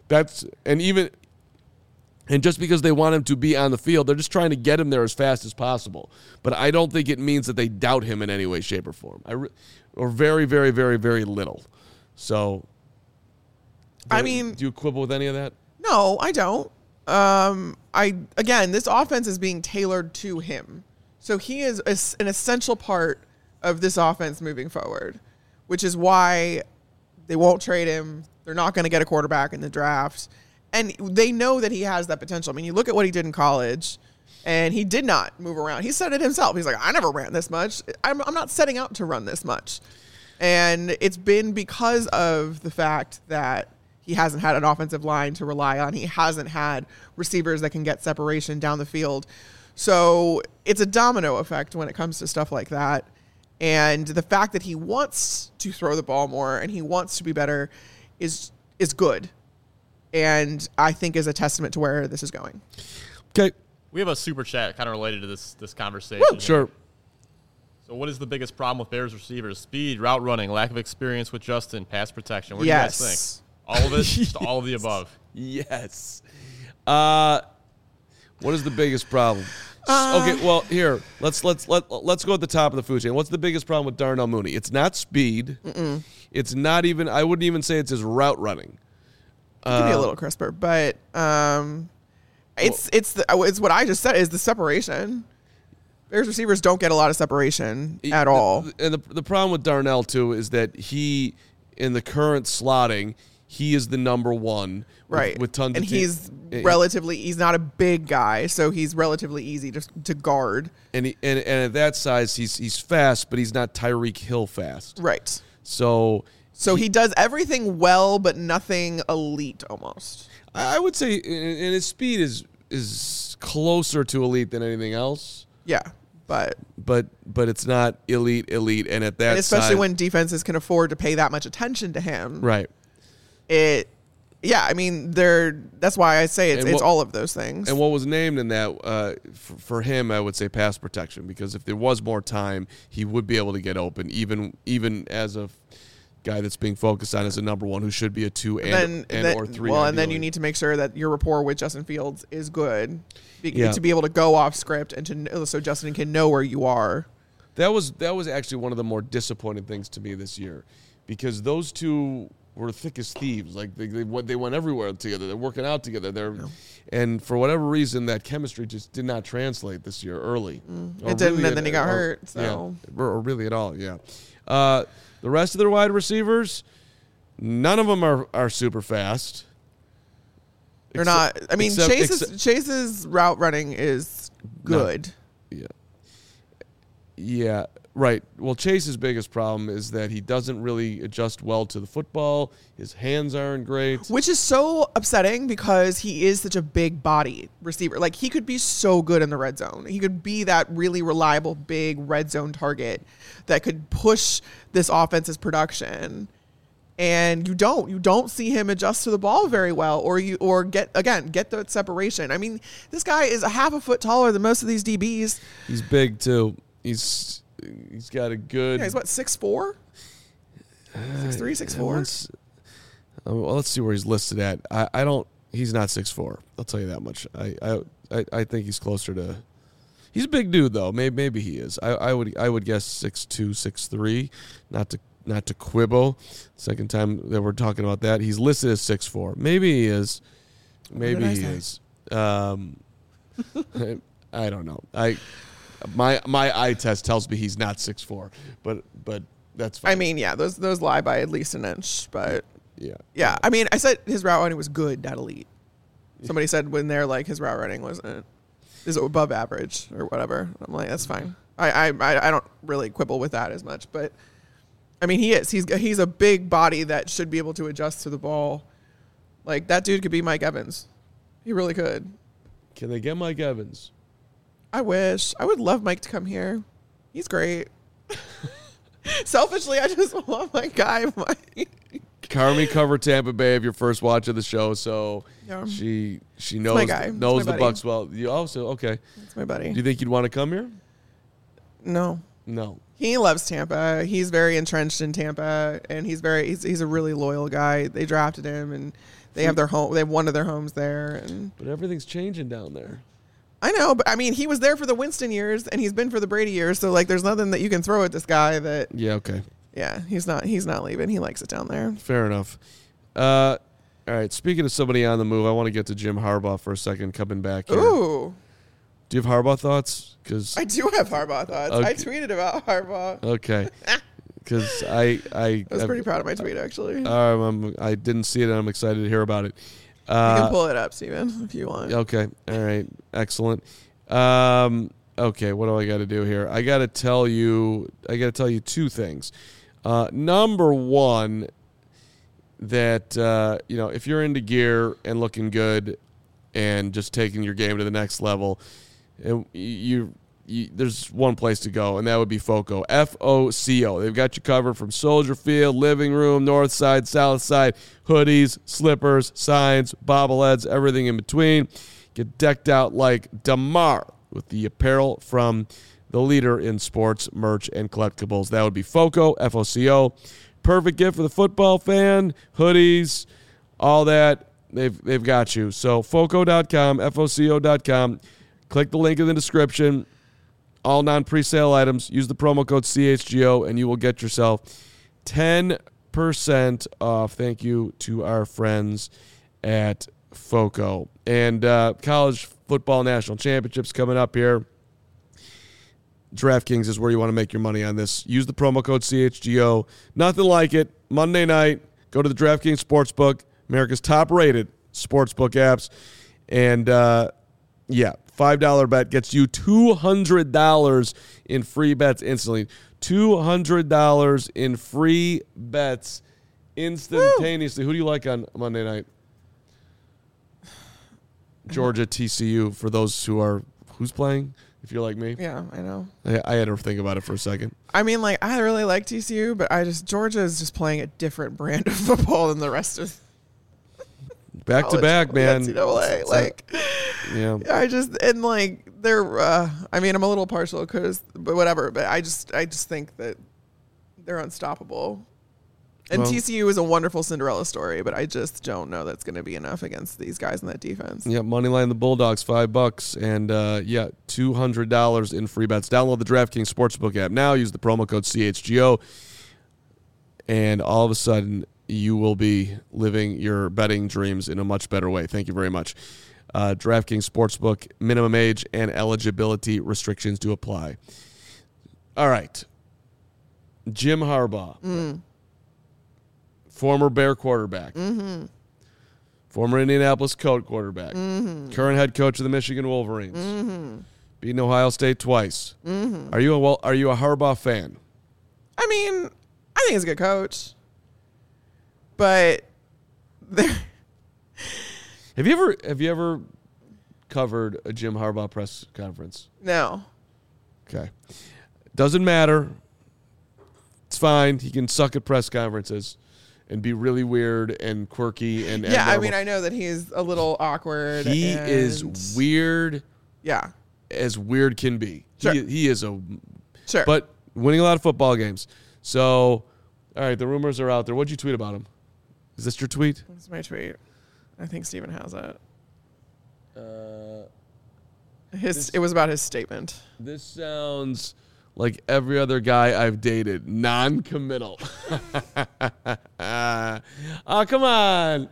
And just because they want him to be on the field, they're just trying to get him there as fast as possible. But I don't think it means that they doubt him in any way, shape, or form. Or very, very, very, very little. So, do you quibble with any of that? No, I don't. This offense is being tailored to him. So he is an essential part of this offense moving forward, which is why they won't trade him. They're not going to get a quarterback in the draft. And they know that he has that potential. I mean, you look at what he did in college, and he did not move around. He said it himself. He's like, I never ran this much. I'm not setting out to run this much. And it's been because of the fact that he hasn't had an offensive line to rely on. He hasn't had receivers that can get separation down the field. So it's a domino effect when it comes to stuff like that. And the fact that he wants to throw the ball more and he wants to be better is good. And I think is a testament to where this is going. Okay. We have a super chat kind of related to this conversation. Woo, sure. So what is the biggest problem with Bears receivers? Speed, route running, lack of experience with Justin, pass protection. What do you guys think? All of it? Just all of the above? Yes. What is the biggest problem? Okay, well, here, let's go at the top of the food chain. What's the biggest problem with Darnell Mooney? It's not speed. Mm-mm. It's not even, I wouldn't even say it's his route running. It could be a little crisper, but it's what I just said is the separation. Bears receivers don't get a lot of separation at all. And the problem with Darnell, too, is that he, in the current slotting, he is the number one. Right. With tons and of he's not a big guy, so he's relatively easy to guard. And at that size, he's fast, but he's not Tyreek Hill fast. Right. So he does everything well, but nothing elite almost. I would say, and his speed is closer to elite than anything else. Yeah, but it's not elite, and at that, and especially size, when defenses can afford to pay that much attention to him. Right. I mean, that's why I say it's all of those things. And what was named in that, for him, I would say pass protection, because if there was more time, he would be able to get open, even as a guy that's being focused on as a number one who should be a 2 or 3. Well, and then you need to make sure that your rapport with Justin Fields is good to be able to go off script and so Justin can know where you are. That was actually one of the more disappointing things to me this year, because those two were thick as thieves. Like they went everywhere together. They're working out together. And for whatever reason, that chemistry just did not translate this year early. It didn't, really, and then he got hurt. So or really at all. Yeah. The rest of their wide receivers, none of them are super fast. They're not. I mean, Chase's route running is good. No. Yeah. Right. Well, Chase's biggest problem is that he doesn't really adjust well to the football. His hands aren't great. Which is so upsetting because he is such a big body receiver. Like, he could be so good in the red zone. He could be that really reliable, big red zone target that could push this offense's production. And you don't see him adjust to the ball very well or get the separation. I mean, this guy is a half a foot taller than most of these DBs. He's big too. He's got a good. Yeah, he's what, 6'4"? 6'3", 6'4"? Well, let's see where he's listed at. I don't. He's not 6'4". I'll tell you that much. I think he's closer to. He's a big dude though. Maybe he is. I would guess 6'2", 6'3". Not to quibble. Second time that we're talking about that. He's listed as 6'4". Maybe he is. Maybe he is. I don't know. My eye test tells me he's not 6'4", but that's fine. I mean, yeah, those lie by at least an inch, but yeah. I mean, I said his route running was good, not elite. Somebody said when they're like his route running is above average or whatever. I'm like, that's fine. I don't really quibble with that as much, but I mean, he is. He's a big body that should be able to adjust to the ball. Like, that dude could be Mike Evans. He really could. Can they get Mike Evans? I wish. I would love Mike to come here. He's great. Selfishly, I just want my guy, Mike. Carmi covered Tampa Bay of your first watch of the show, so she knows the Bucs well. You also okay. That's my buddy. Do you think you'd want to come here? No. He loves Tampa. He's very entrenched in Tampa, and he's a really loyal guy. They drafted him, and they have their home. They have one of their homes there. But everything's changing down there. I know, but I mean, he was there for the Winston years, and he's been for the Brady years. So like, there's nothing that you can throw at this guy. That okay. Yeah, he's not leaving. He likes it down there. Fair enough. All right. Speaking of somebody on the move, I want to get to Jim Harbaugh for a second. Coming back here. Ooh. Do you have Harbaugh thoughts? Because I do have Harbaugh thoughts. Okay. I tweeted about Harbaugh. Okay. Because I was pretty proud of my tweet, actually. I didn't see it, and I'm excited to hear about it. You can pull it up, Steven, if you want. Okay. All right. Excellent. Okay. What do I got to do here? I got to tell you two things. Number one, that if you're into gear and looking good, and just taking your game to the next level, and there's one place to go, and that would be FOCO. FOCO. They've got you covered from Soldier Field, living room, north side, south side, hoodies, slippers, signs, bobbleheads, everything in between. Get decked out like DeMar with the apparel from the leader in sports merch and collectibles. That would be FOCO, FOCO. Perfect gift for the football fan, hoodies, all that. They've got you. So FOCO.com, FOCO.com. Click the link in the description. All non-presale items. Use the promo code CHGO, and you will get yourself 10% off. Thank you to our friends at FOCO. And college football national championships coming up here. DraftKings is where you want to make your money on this. Use the promo code CHGO. Nothing like it. Monday night, go to the DraftKings Sportsbook, America's top-rated sportsbook apps. And, $5 bet gets you $200 in free bets instantly. $200 in free bets instantaneously. Woo! Who do you like on Monday night? Georgia, TCU, for those who's playing, if you're like me. Yeah, I know. I had to think about it for a second. I mean, like, I really like TCU, but Georgia is just playing a different brand of football than the rest of back to back, man. NCAA. They're. I mean, I'm a little partial but whatever. But I just think that they're unstoppable. And TCU is a wonderful Cinderella story, but I just don't know that's going to be enough against these guys in that defense. Yeah, moneyline the Bulldogs, $5, and $200 in free bets. Download the DraftKings Sportsbook app now. Use the promo code CHGO, and all of a sudden you will be living your betting dreams in a much better way. Thank you very much. DraftKings Sportsbook, minimum age and eligibility restrictions do apply. All right. Jim Harbaugh, former Bear quarterback, Former Indianapolis Colts quarterback. Current head coach of the Michigan Wolverines. Beaten Ohio State twice. Are you a Harbaugh fan? I mean, I think he's a good coach. But Have you ever covered a Jim Harbaugh press conference? No. Okay. Doesn't matter. It's fine. He can suck at press conferences and be really weird and quirky and yeah, I mean, I know that he's a little awkward. He is weird. Yeah. As weird can be. Sure. He is a sure. But winning a lot of football games. So, all right, the rumors are out there. What'd you tweet about him? Is this your tweet? That's my tweet. I think Steven has it. It was about his statement. This sounds like every other guy I've dated. Non-committal. Oh, come on.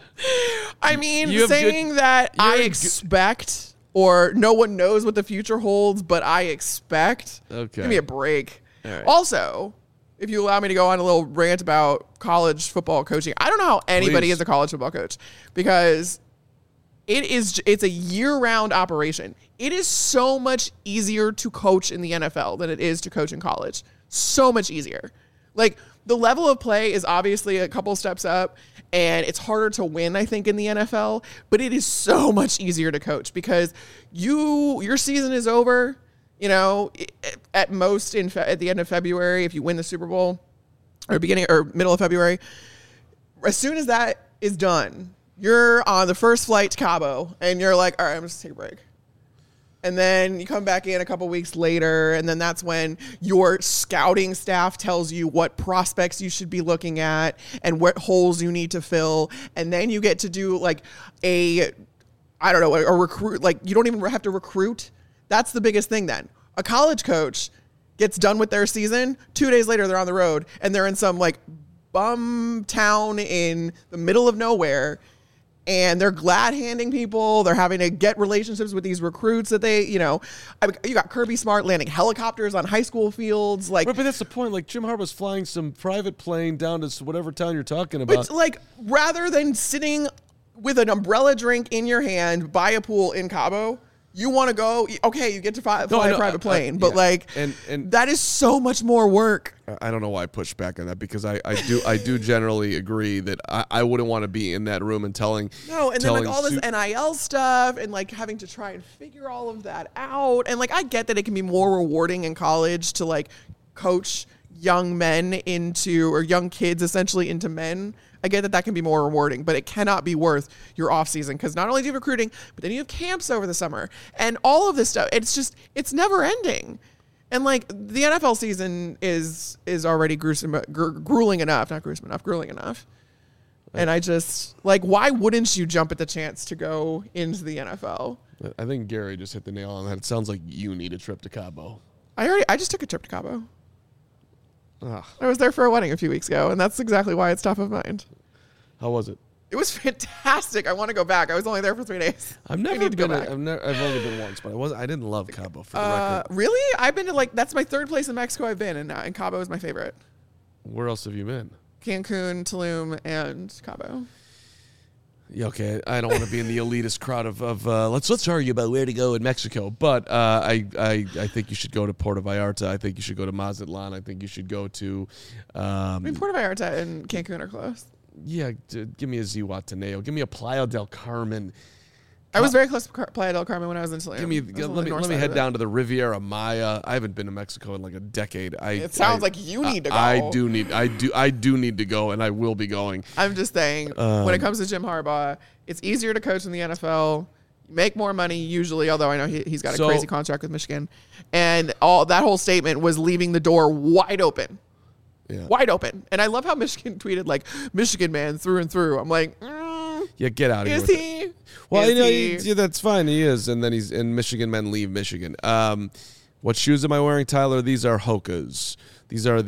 I mean, saying that I expect or no one knows what the future holds, but I expect. Okay. Give me a break. All right. Also, if you allow me to go on a little rant about college football coaching, I don't know how anybody is a college football coach because it's a year-round operation. It is so much easier to coach in the NFL than it is to coach in college. So much easier. Like, the level of play is obviously a couple steps up, and it's harder to win, I think, in the NFL, but it is so much easier to coach because your season is over, at most at the end of February if you win the Super Bowl, or beginning or middle of February. As soon as that is done, you're on the first flight to Cabo, and you're like, all right, I'm just take a break. And then you come back in a couple weeks later, and then that's when your scouting staff tells you what prospects you should be looking at and what holes you need to fill. And then you get to do like a recruit. Like, you don't even have to recruit. That's the biggest thing then. A college coach gets done with their season. 2 days later, they're on the road, and they're in some like bum town in the middle of nowhere. And they're glad handing people. They're having to get relationships with these recruits that they, you got Kirby Smart landing helicopters on high school fields. Like, right, but that's the point. Like, Jim Harbaugh's flying some private plane down to whatever town you're talking about. But like, rather than sitting with an umbrella drink in your hand by a pool in Cabo, you want to go, okay, you get to fly a private plane, but and that is so much more work. I don't know why I push back on that because I do generally agree that I wouldn't want to be in that room and telling. No, and then like all this NIL stuff and like having to try and figure all of that out. And like, I get that it can be more rewarding in college to like coach young men or young kids essentially into men. I get that can be more rewarding, but it cannot be worth your off season because not only do you have recruiting, but then you have camps over the summer and all of this stuff. It's never ending. And like, the NFL season is already grueling enough. And I just like, why wouldn't you jump at the chance to go into the NFL? I think Gary just hit the nail on that. It sounds like you need a trip to Cabo. I just took a trip to Cabo. Ugh. I was there for a wedding a few weeks ago, and that's exactly why it's top of mind. How was it? It was fantastic. I want to go back. I was only there for 3 days. I've only been once, but I didn't love Cabo for the record. Really? I've been to that's my third place in Mexico I've been, and Cabo is my favorite. Where else have you been? Cancun, Tulum, and Cabo. Yeah, okay, I don't want to be in the elitist crowd of let's argue about where to go in Mexico, but I think you should go to Puerto Vallarta. I think you should go to Mazatlan. I think you should go to. Puerto Vallarta and Cancun are close. Yeah, give me a Zihuatanejo. Give me a Playa del Carmen. I was very close to Playa del Carmen when I was in Tulum. Let me head down to the Riviera Maya. I haven't been to Mexico in like a decade. It sounds like you need to go. I do need to go, and I will be going. I'm just saying, when it comes to Jim Harbaugh, it's easier to coach in the NFL. You make more money usually, although I know he's got a crazy contract with Michigan, and that whole statement was leaving the door wide open. Yeah. Wide open. And I love how Michigan tweeted like, Michigan man through and through. I'm like, yeah, get out of here. Is he? Well, yeah, that's fine. He is, and then Michigan men leave Michigan. What shoes am I wearing, Tyler? These are Hoka's. These are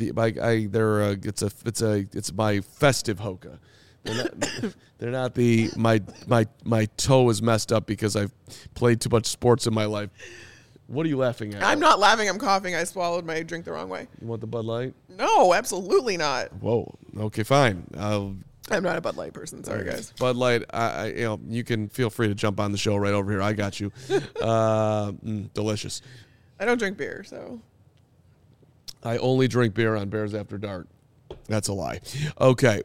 it's my festive Hoka. They're not my toe is messed up because I've played too much sports in my life. What are you laughing at? I'm not laughing. I'm coughing. I swallowed my drink the wrong way. You want the Bud Light? No, absolutely not. Whoa. Okay, fine. I'm not a Bud Light person. Sorry, guys. Bud Light, you can feel free to jump on the show right over here. I got you. Delicious. I don't drink beer, so. I only drink beer on Bears After Dark. That's a lie. Okay.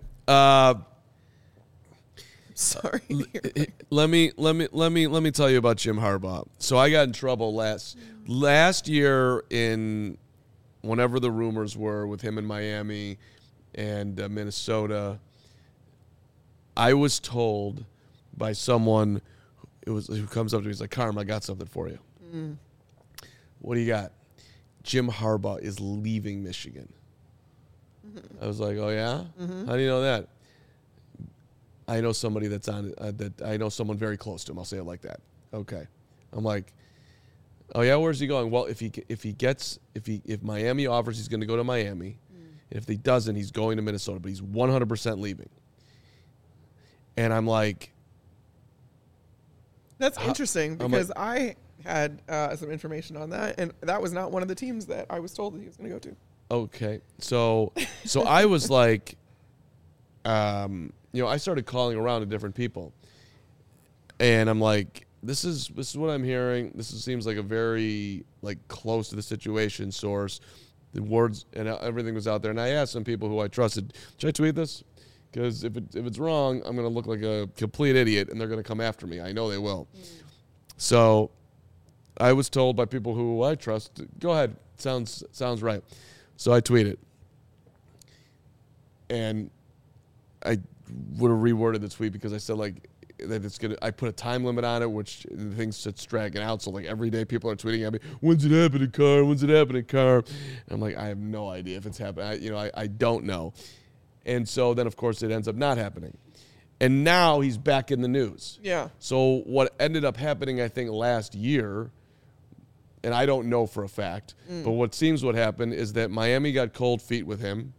Sorry. Let me tell you about Jim Harbaugh. So I got in trouble last year in whenever the rumors were with him in Miami and Minnesota. I was told by someone who comes up to me, he's like, Carm, I got something for you. What do you got? Jim Harbaugh is leaving Michigan. I was like, oh yeah? How do you know that? I know somebody that's on that. I know someone very close to him. I'll say it like that. Okay. I'm like, oh yeah, where's he going? Well, if Miami offers, he's going to go to Miami. And if he doesn't, he's going to Minnesota. But he's 100% leaving. And I'm like, that's interesting because I had some information on that, and that was not one of the teams that I was told that he was going to go to. Okay, so I was like, I started calling around to different people, and I'm like, this is what I'm hearing. Seems like a very close to the situation source. The words and everything was out there, and I asked some people who I trusted, should I tweet this? Because if it's wrong, I'm going to look like a complete idiot, and they're going to come after me. I know they will. So I was told by people who I trust, go ahead, sounds right. So I tweeted. And I would have reworded the tweet because I said that it's gonna. I put a time limit on it, which the thing's just dragging out. So every day people are tweeting at me, when's it happening, Carm? When's it happening, Carm? And I'm like, I have no idea if it's happening. I don't know. And so then, of course, it ends up not happening. And now he's back in the news. Yeah. So what ended up happening, I think, last year, and I don't know for a fact, but what happened is that Miami got cold feet with him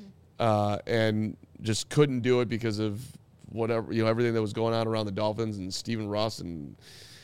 and just couldn't do it because of whatever, everything that was going on around the Dolphins and Stephen Ross and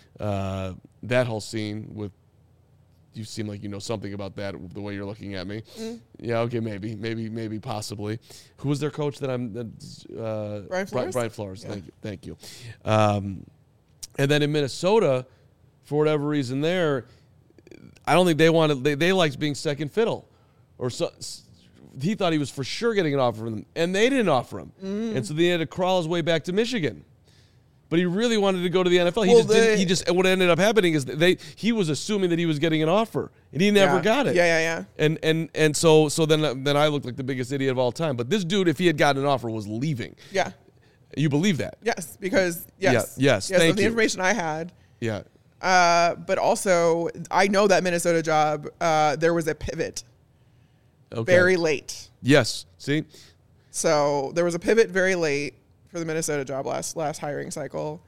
that whole scene with. You seem like you know something about that the way you're looking at me. Yeah, okay, maybe, possibly. Who was their coach Brian Flores? Brian Flores, yeah. Thank you. And then in Minnesota, for whatever reason there, I don't think they liked being second fiddle. Or so he thought he was for sure getting an offer from them, and they didn't offer him. And so he had to crawl his way back to Michigan. But he really wanted to go to the NFL. What ended up happening is he was assuming that he was getting an offer, and he never got it. Yeah. And so then I looked like the biggest idiot of all time. But this dude, if he had gotten an offer, was leaving. Yeah. You believe that? Yes, because yes. Yes. Thank you. The information I had. Yeah. But also, I know that Minnesota job. There was a pivot. Okay. Very late. Yes. See. So there was a pivot very late for the Minnesota job last hiring cycle.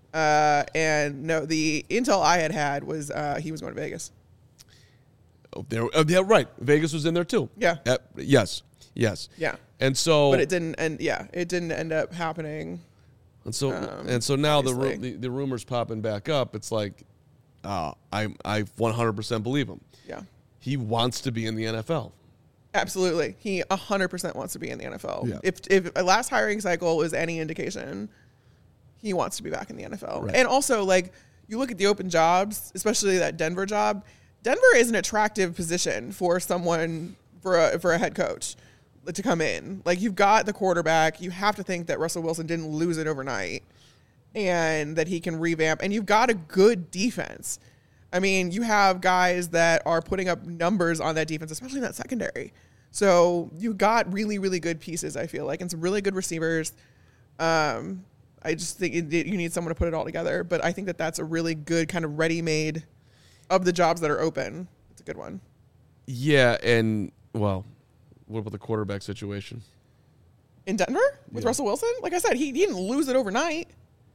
And no, the intel I had was he was going to Vegas. Oh, yeah, right. Vegas was in there too. Yeah. Yes. Yeah. And so, but it didn't end up happening. And so now the rumors popping back up. It's like, I 100% believe him. Yeah. He wants to be in the NFL. Absolutely. He 100% wants to be in the NFL. Yeah. If a last hiring cycle was any indication, he wants to be back in the NFL. Right. And also, you look at the open jobs, especially that Denver job. Denver is an attractive position for someone, for a head coach to come in. You've got the quarterback. You have to think that Russell Wilson didn't lose it overnight and that he can revamp. And you've got a good defense. I mean, you have guys that are putting up numbers on that defense, especially in that secondary. So you got really, really good pieces, I feel like, and some really good receivers. I just think you need someone to put it all together. But I think that that's a really good kind of ready-made of the jobs that are open. It's a good one. Yeah, and, well, what about the quarterback situation? In Denver? With Russell Wilson? Like I said, he didn't lose it overnight.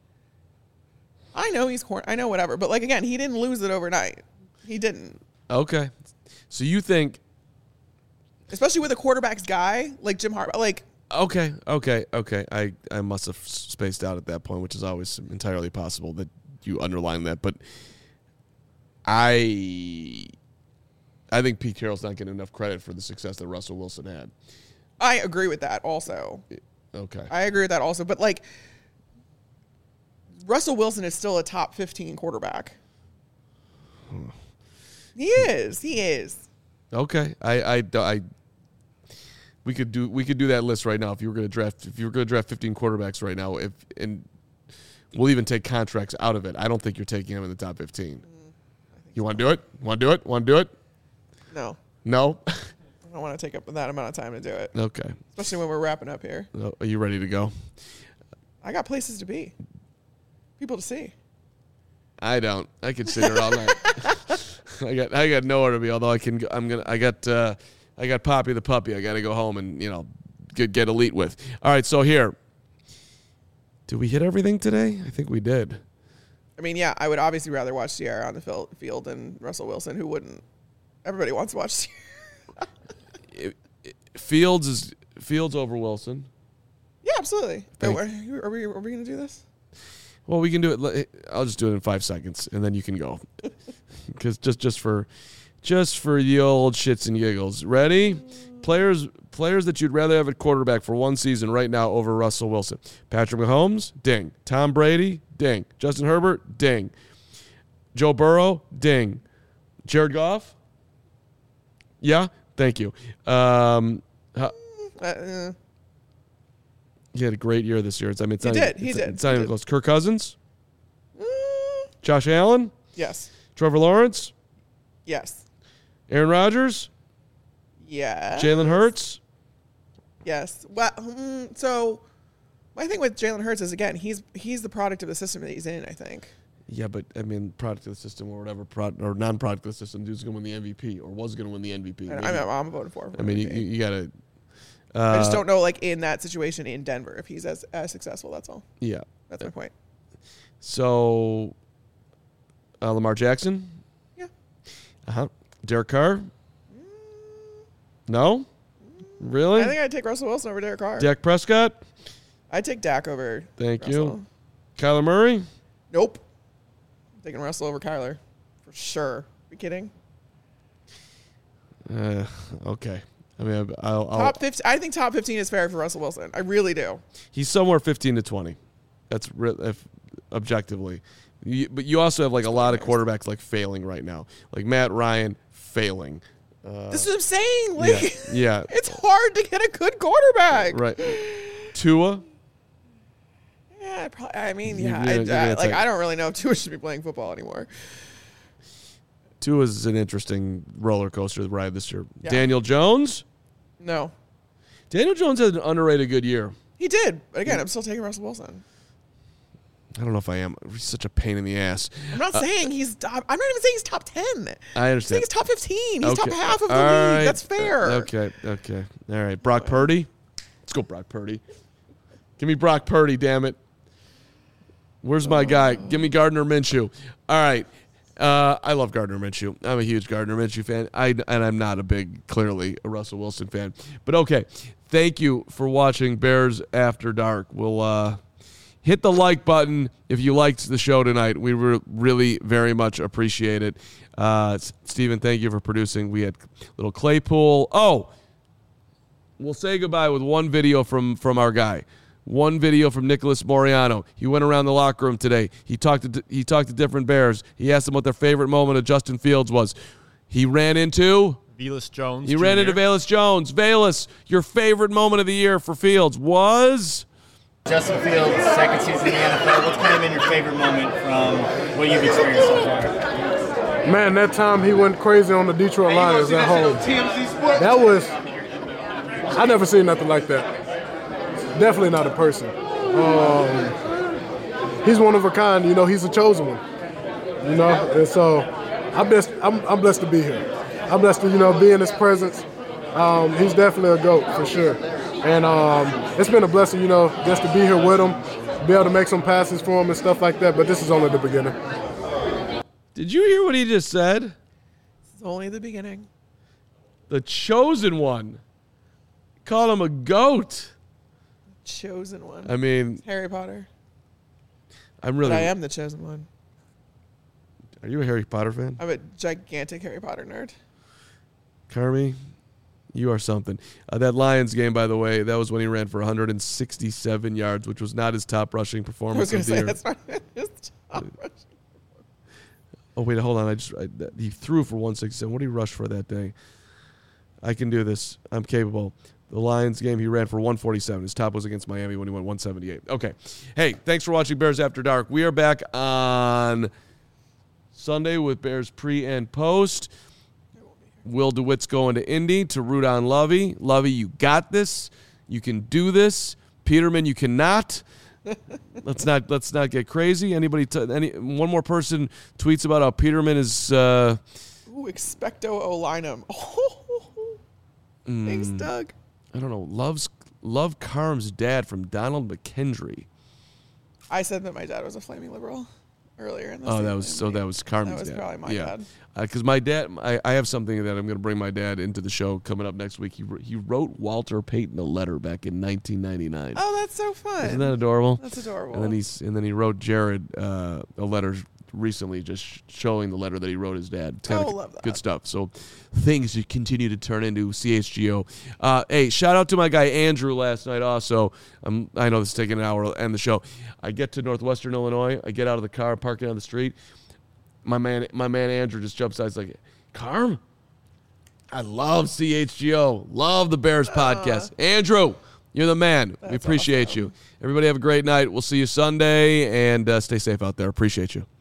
I know I know whatever, but again, he didn't lose it overnight. He didn't. Okay. So you think, especially with a quarterback's guy like Jim Harbaugh, Okay. I must have spaced out at that point, which is always entirely possible that you underline that, but I think Pete Carroll's not getting enough credit for the success that Russell Wilson had. I agree with that also. Okay. I agree with that also. But, like, Russell Wilson is still a top 15 quarterback. He is. Okay. We could do that list right now if you were going to draft 15 quarterbacks right now, and we'll even take contracts out of it. I don't think you're taking him in the top 15. You want to do it? Want to do it? No. No? I don't want to take up that amount of time to do it. Okay. Especially when we're wrapping up here. Are you ready to go? I got places to be. People to see. I don't. I could sit here all night. I got nowhere to be. Although I got Poppy the puppy. I got to go home and get elite with. All right. So here, did we hit everything today? I think we did. I mean, yeah. I would obviously rather watch Sierra on the field than Russell Wilson. Who wouldn't? Everybody wants to watch Sierra. Fields over Wilson. Yeah, absolutely. Are we going to do this? Well, we can do it. I'll just do it in 5 seconds, and then you can go. Because just for the old shits and giggles. Ready? Players that you'd rather have at quarterback for one season right now over Russell Wilson. Patrick Mahomes, ding. Tom Brady, ding. Justin Herbert, ding. Joe Burrow, ding. Jared Goff? Yeah? Thank you. He had a great year this year. He did. It's not even close. Kirk Cousins? Josh Allen? Yes. Trevor Lawrence? Yes. Aaron Rodgers? Yeah. Jalen Hurts? Yes. Well, so my thing with Jalen Hurts is, again, he's the product of the system that he's in, I think. Yeah, but, I mean, product of the system or whatever, or non-product of the system, dude's going to win the MVP or was going to win the MVP. I'm voting for him. I mean, you got to... I just don't know, like, in that situation in Denver, if he's as successful. That's all. Yeah. That's my point. So, Lamar Jackson? Yeah. Derek Carr? No? Really? I think I'd take Russell Wilson over Derek Carr. Dak Prescott? I'd take Dak over Thank Russell. you. Kyler Murray? Nope. I'm taking Russell over Kyler. For sure. Are you kidding? Okay. I mean, I'll top 15. I think top 15 is fair for Russell Wilson. I really do. He's somewhere 15 to 20. That's objectively. But you also have like a lot of quarterbacks like failing right now. Like Matt Ryan failing. This is what I'm saying. Like, yeah. It's hard to get a good quarterback. Right. Tua? Yeah, probably, I mean, I don't really know if Tua should be playing football anymore. Tua is an interesting roller coaster ride this year. Yeah. Daniel Jones? No. Daniel Jones had an underrated good year. He did. But again, I'm still taking Russell Wilson. I don't know if I am. He's such a pain in the ass. I'm not saying he's top. I'm not even saying he's top 10. I understand. I'm saying he's top 15. He's top half of the All league. right. That's fair. Okay. All right. Brock Purdy? Let's go Brock Purdy. Give me Brock Purdy, damn it. Where's my guy? Give me Gardner Minshew. All right. I love Gardner Minshew. I'm a huge Gardner Minshew fan. And I'm not clearly a Russell Wilson fan. But okay, thank you for watching Bears After Dark. We'll hit the like button if you liked the show tonight. We really very much appreciate it. Steven, thank you for producing. We had little Claypool. Oh, we'll say goodbye with one video from our guy. One video from Nicholas Moriano. He went around the locker room today. He talked to different Bears. He asked them what their favorite moment of Justin Fields was. He ran into Velus Jones. He ran into Velus Jones. Velus, your favorite moment of the year for Fields was? Justin Fields' second season in the NFL. What's kind of been your favorite moment from what you've experienced so far? Man, that time he went crazy on the Detroit Lions at home. That was, I never seen nothing like that. Definitely not a person. He's one of a kind. He's a chosen one. And so I'm blessed to be here. I'm blessed to be in his presence. He's definitely a GOAT for sure. And it's been a blessing, just to be here with him, be able to make some passes for him and stuff like that. But this is only the beginning. Did you hear what he just said? It's only the beginning. The chosen one. Call him a GOAT. Chosen one. I mean, it's Harry Potter. I am the chosen one. Are you a Harry Potter fan? I'm a gigantic Harry Potter nerd. Carmi, You are something. That Lions game, by the way, that was when he ran for 167 yards, which was not his top rushing performance. I was going to say, that's not his top rushing. Oh, wait, hold on. He threw for 167. What did he rush for that day? I can do this. I'm capable. The Lions game, he ran for 147. His top was against Miami when he went 178. Okay. Hey, thanks for watching Bears After Dark. We are back on Sunday with Bears pre and post. Will DeWitt's going to Indy to root on Lovey. Lovey, you got this. You can do this. Peterman, you cannot. Let's not get crazy. One more person tweets about how Peterman is. Expecto Olinum. Thanks, Doug. I don't know. Love Carm's dad from Donald McKendry. I said that my dad was a flaming liberal earlier in this. That was Carm's dad. That was probably my dad. Because my dad, I have something that I'm going to bring my dad into the show coming up next week. He wrote Walter Payton a letter back in 1999. Oh, that's so fun! Isn't that adorable? That's adorable. And then he wrote Jared a letter recently, just showing the letter that he wrote his dad. It's kind of good stuff. So things you continue to turn into CHGO. Hey, shout out to my guy Andrew last night. Also, I know this is taking an hour to end the show. I get to Northwestern Illinois. I get out of the car, parking on the street. My man Andrew just jumps out. He's like, Carm, I love CHGO. Love the Bears podcast. Andrew, you're the man. We appreciate you. Everybody have a great night. We'll see you Sunday, and stay safe out there. Appreciate you.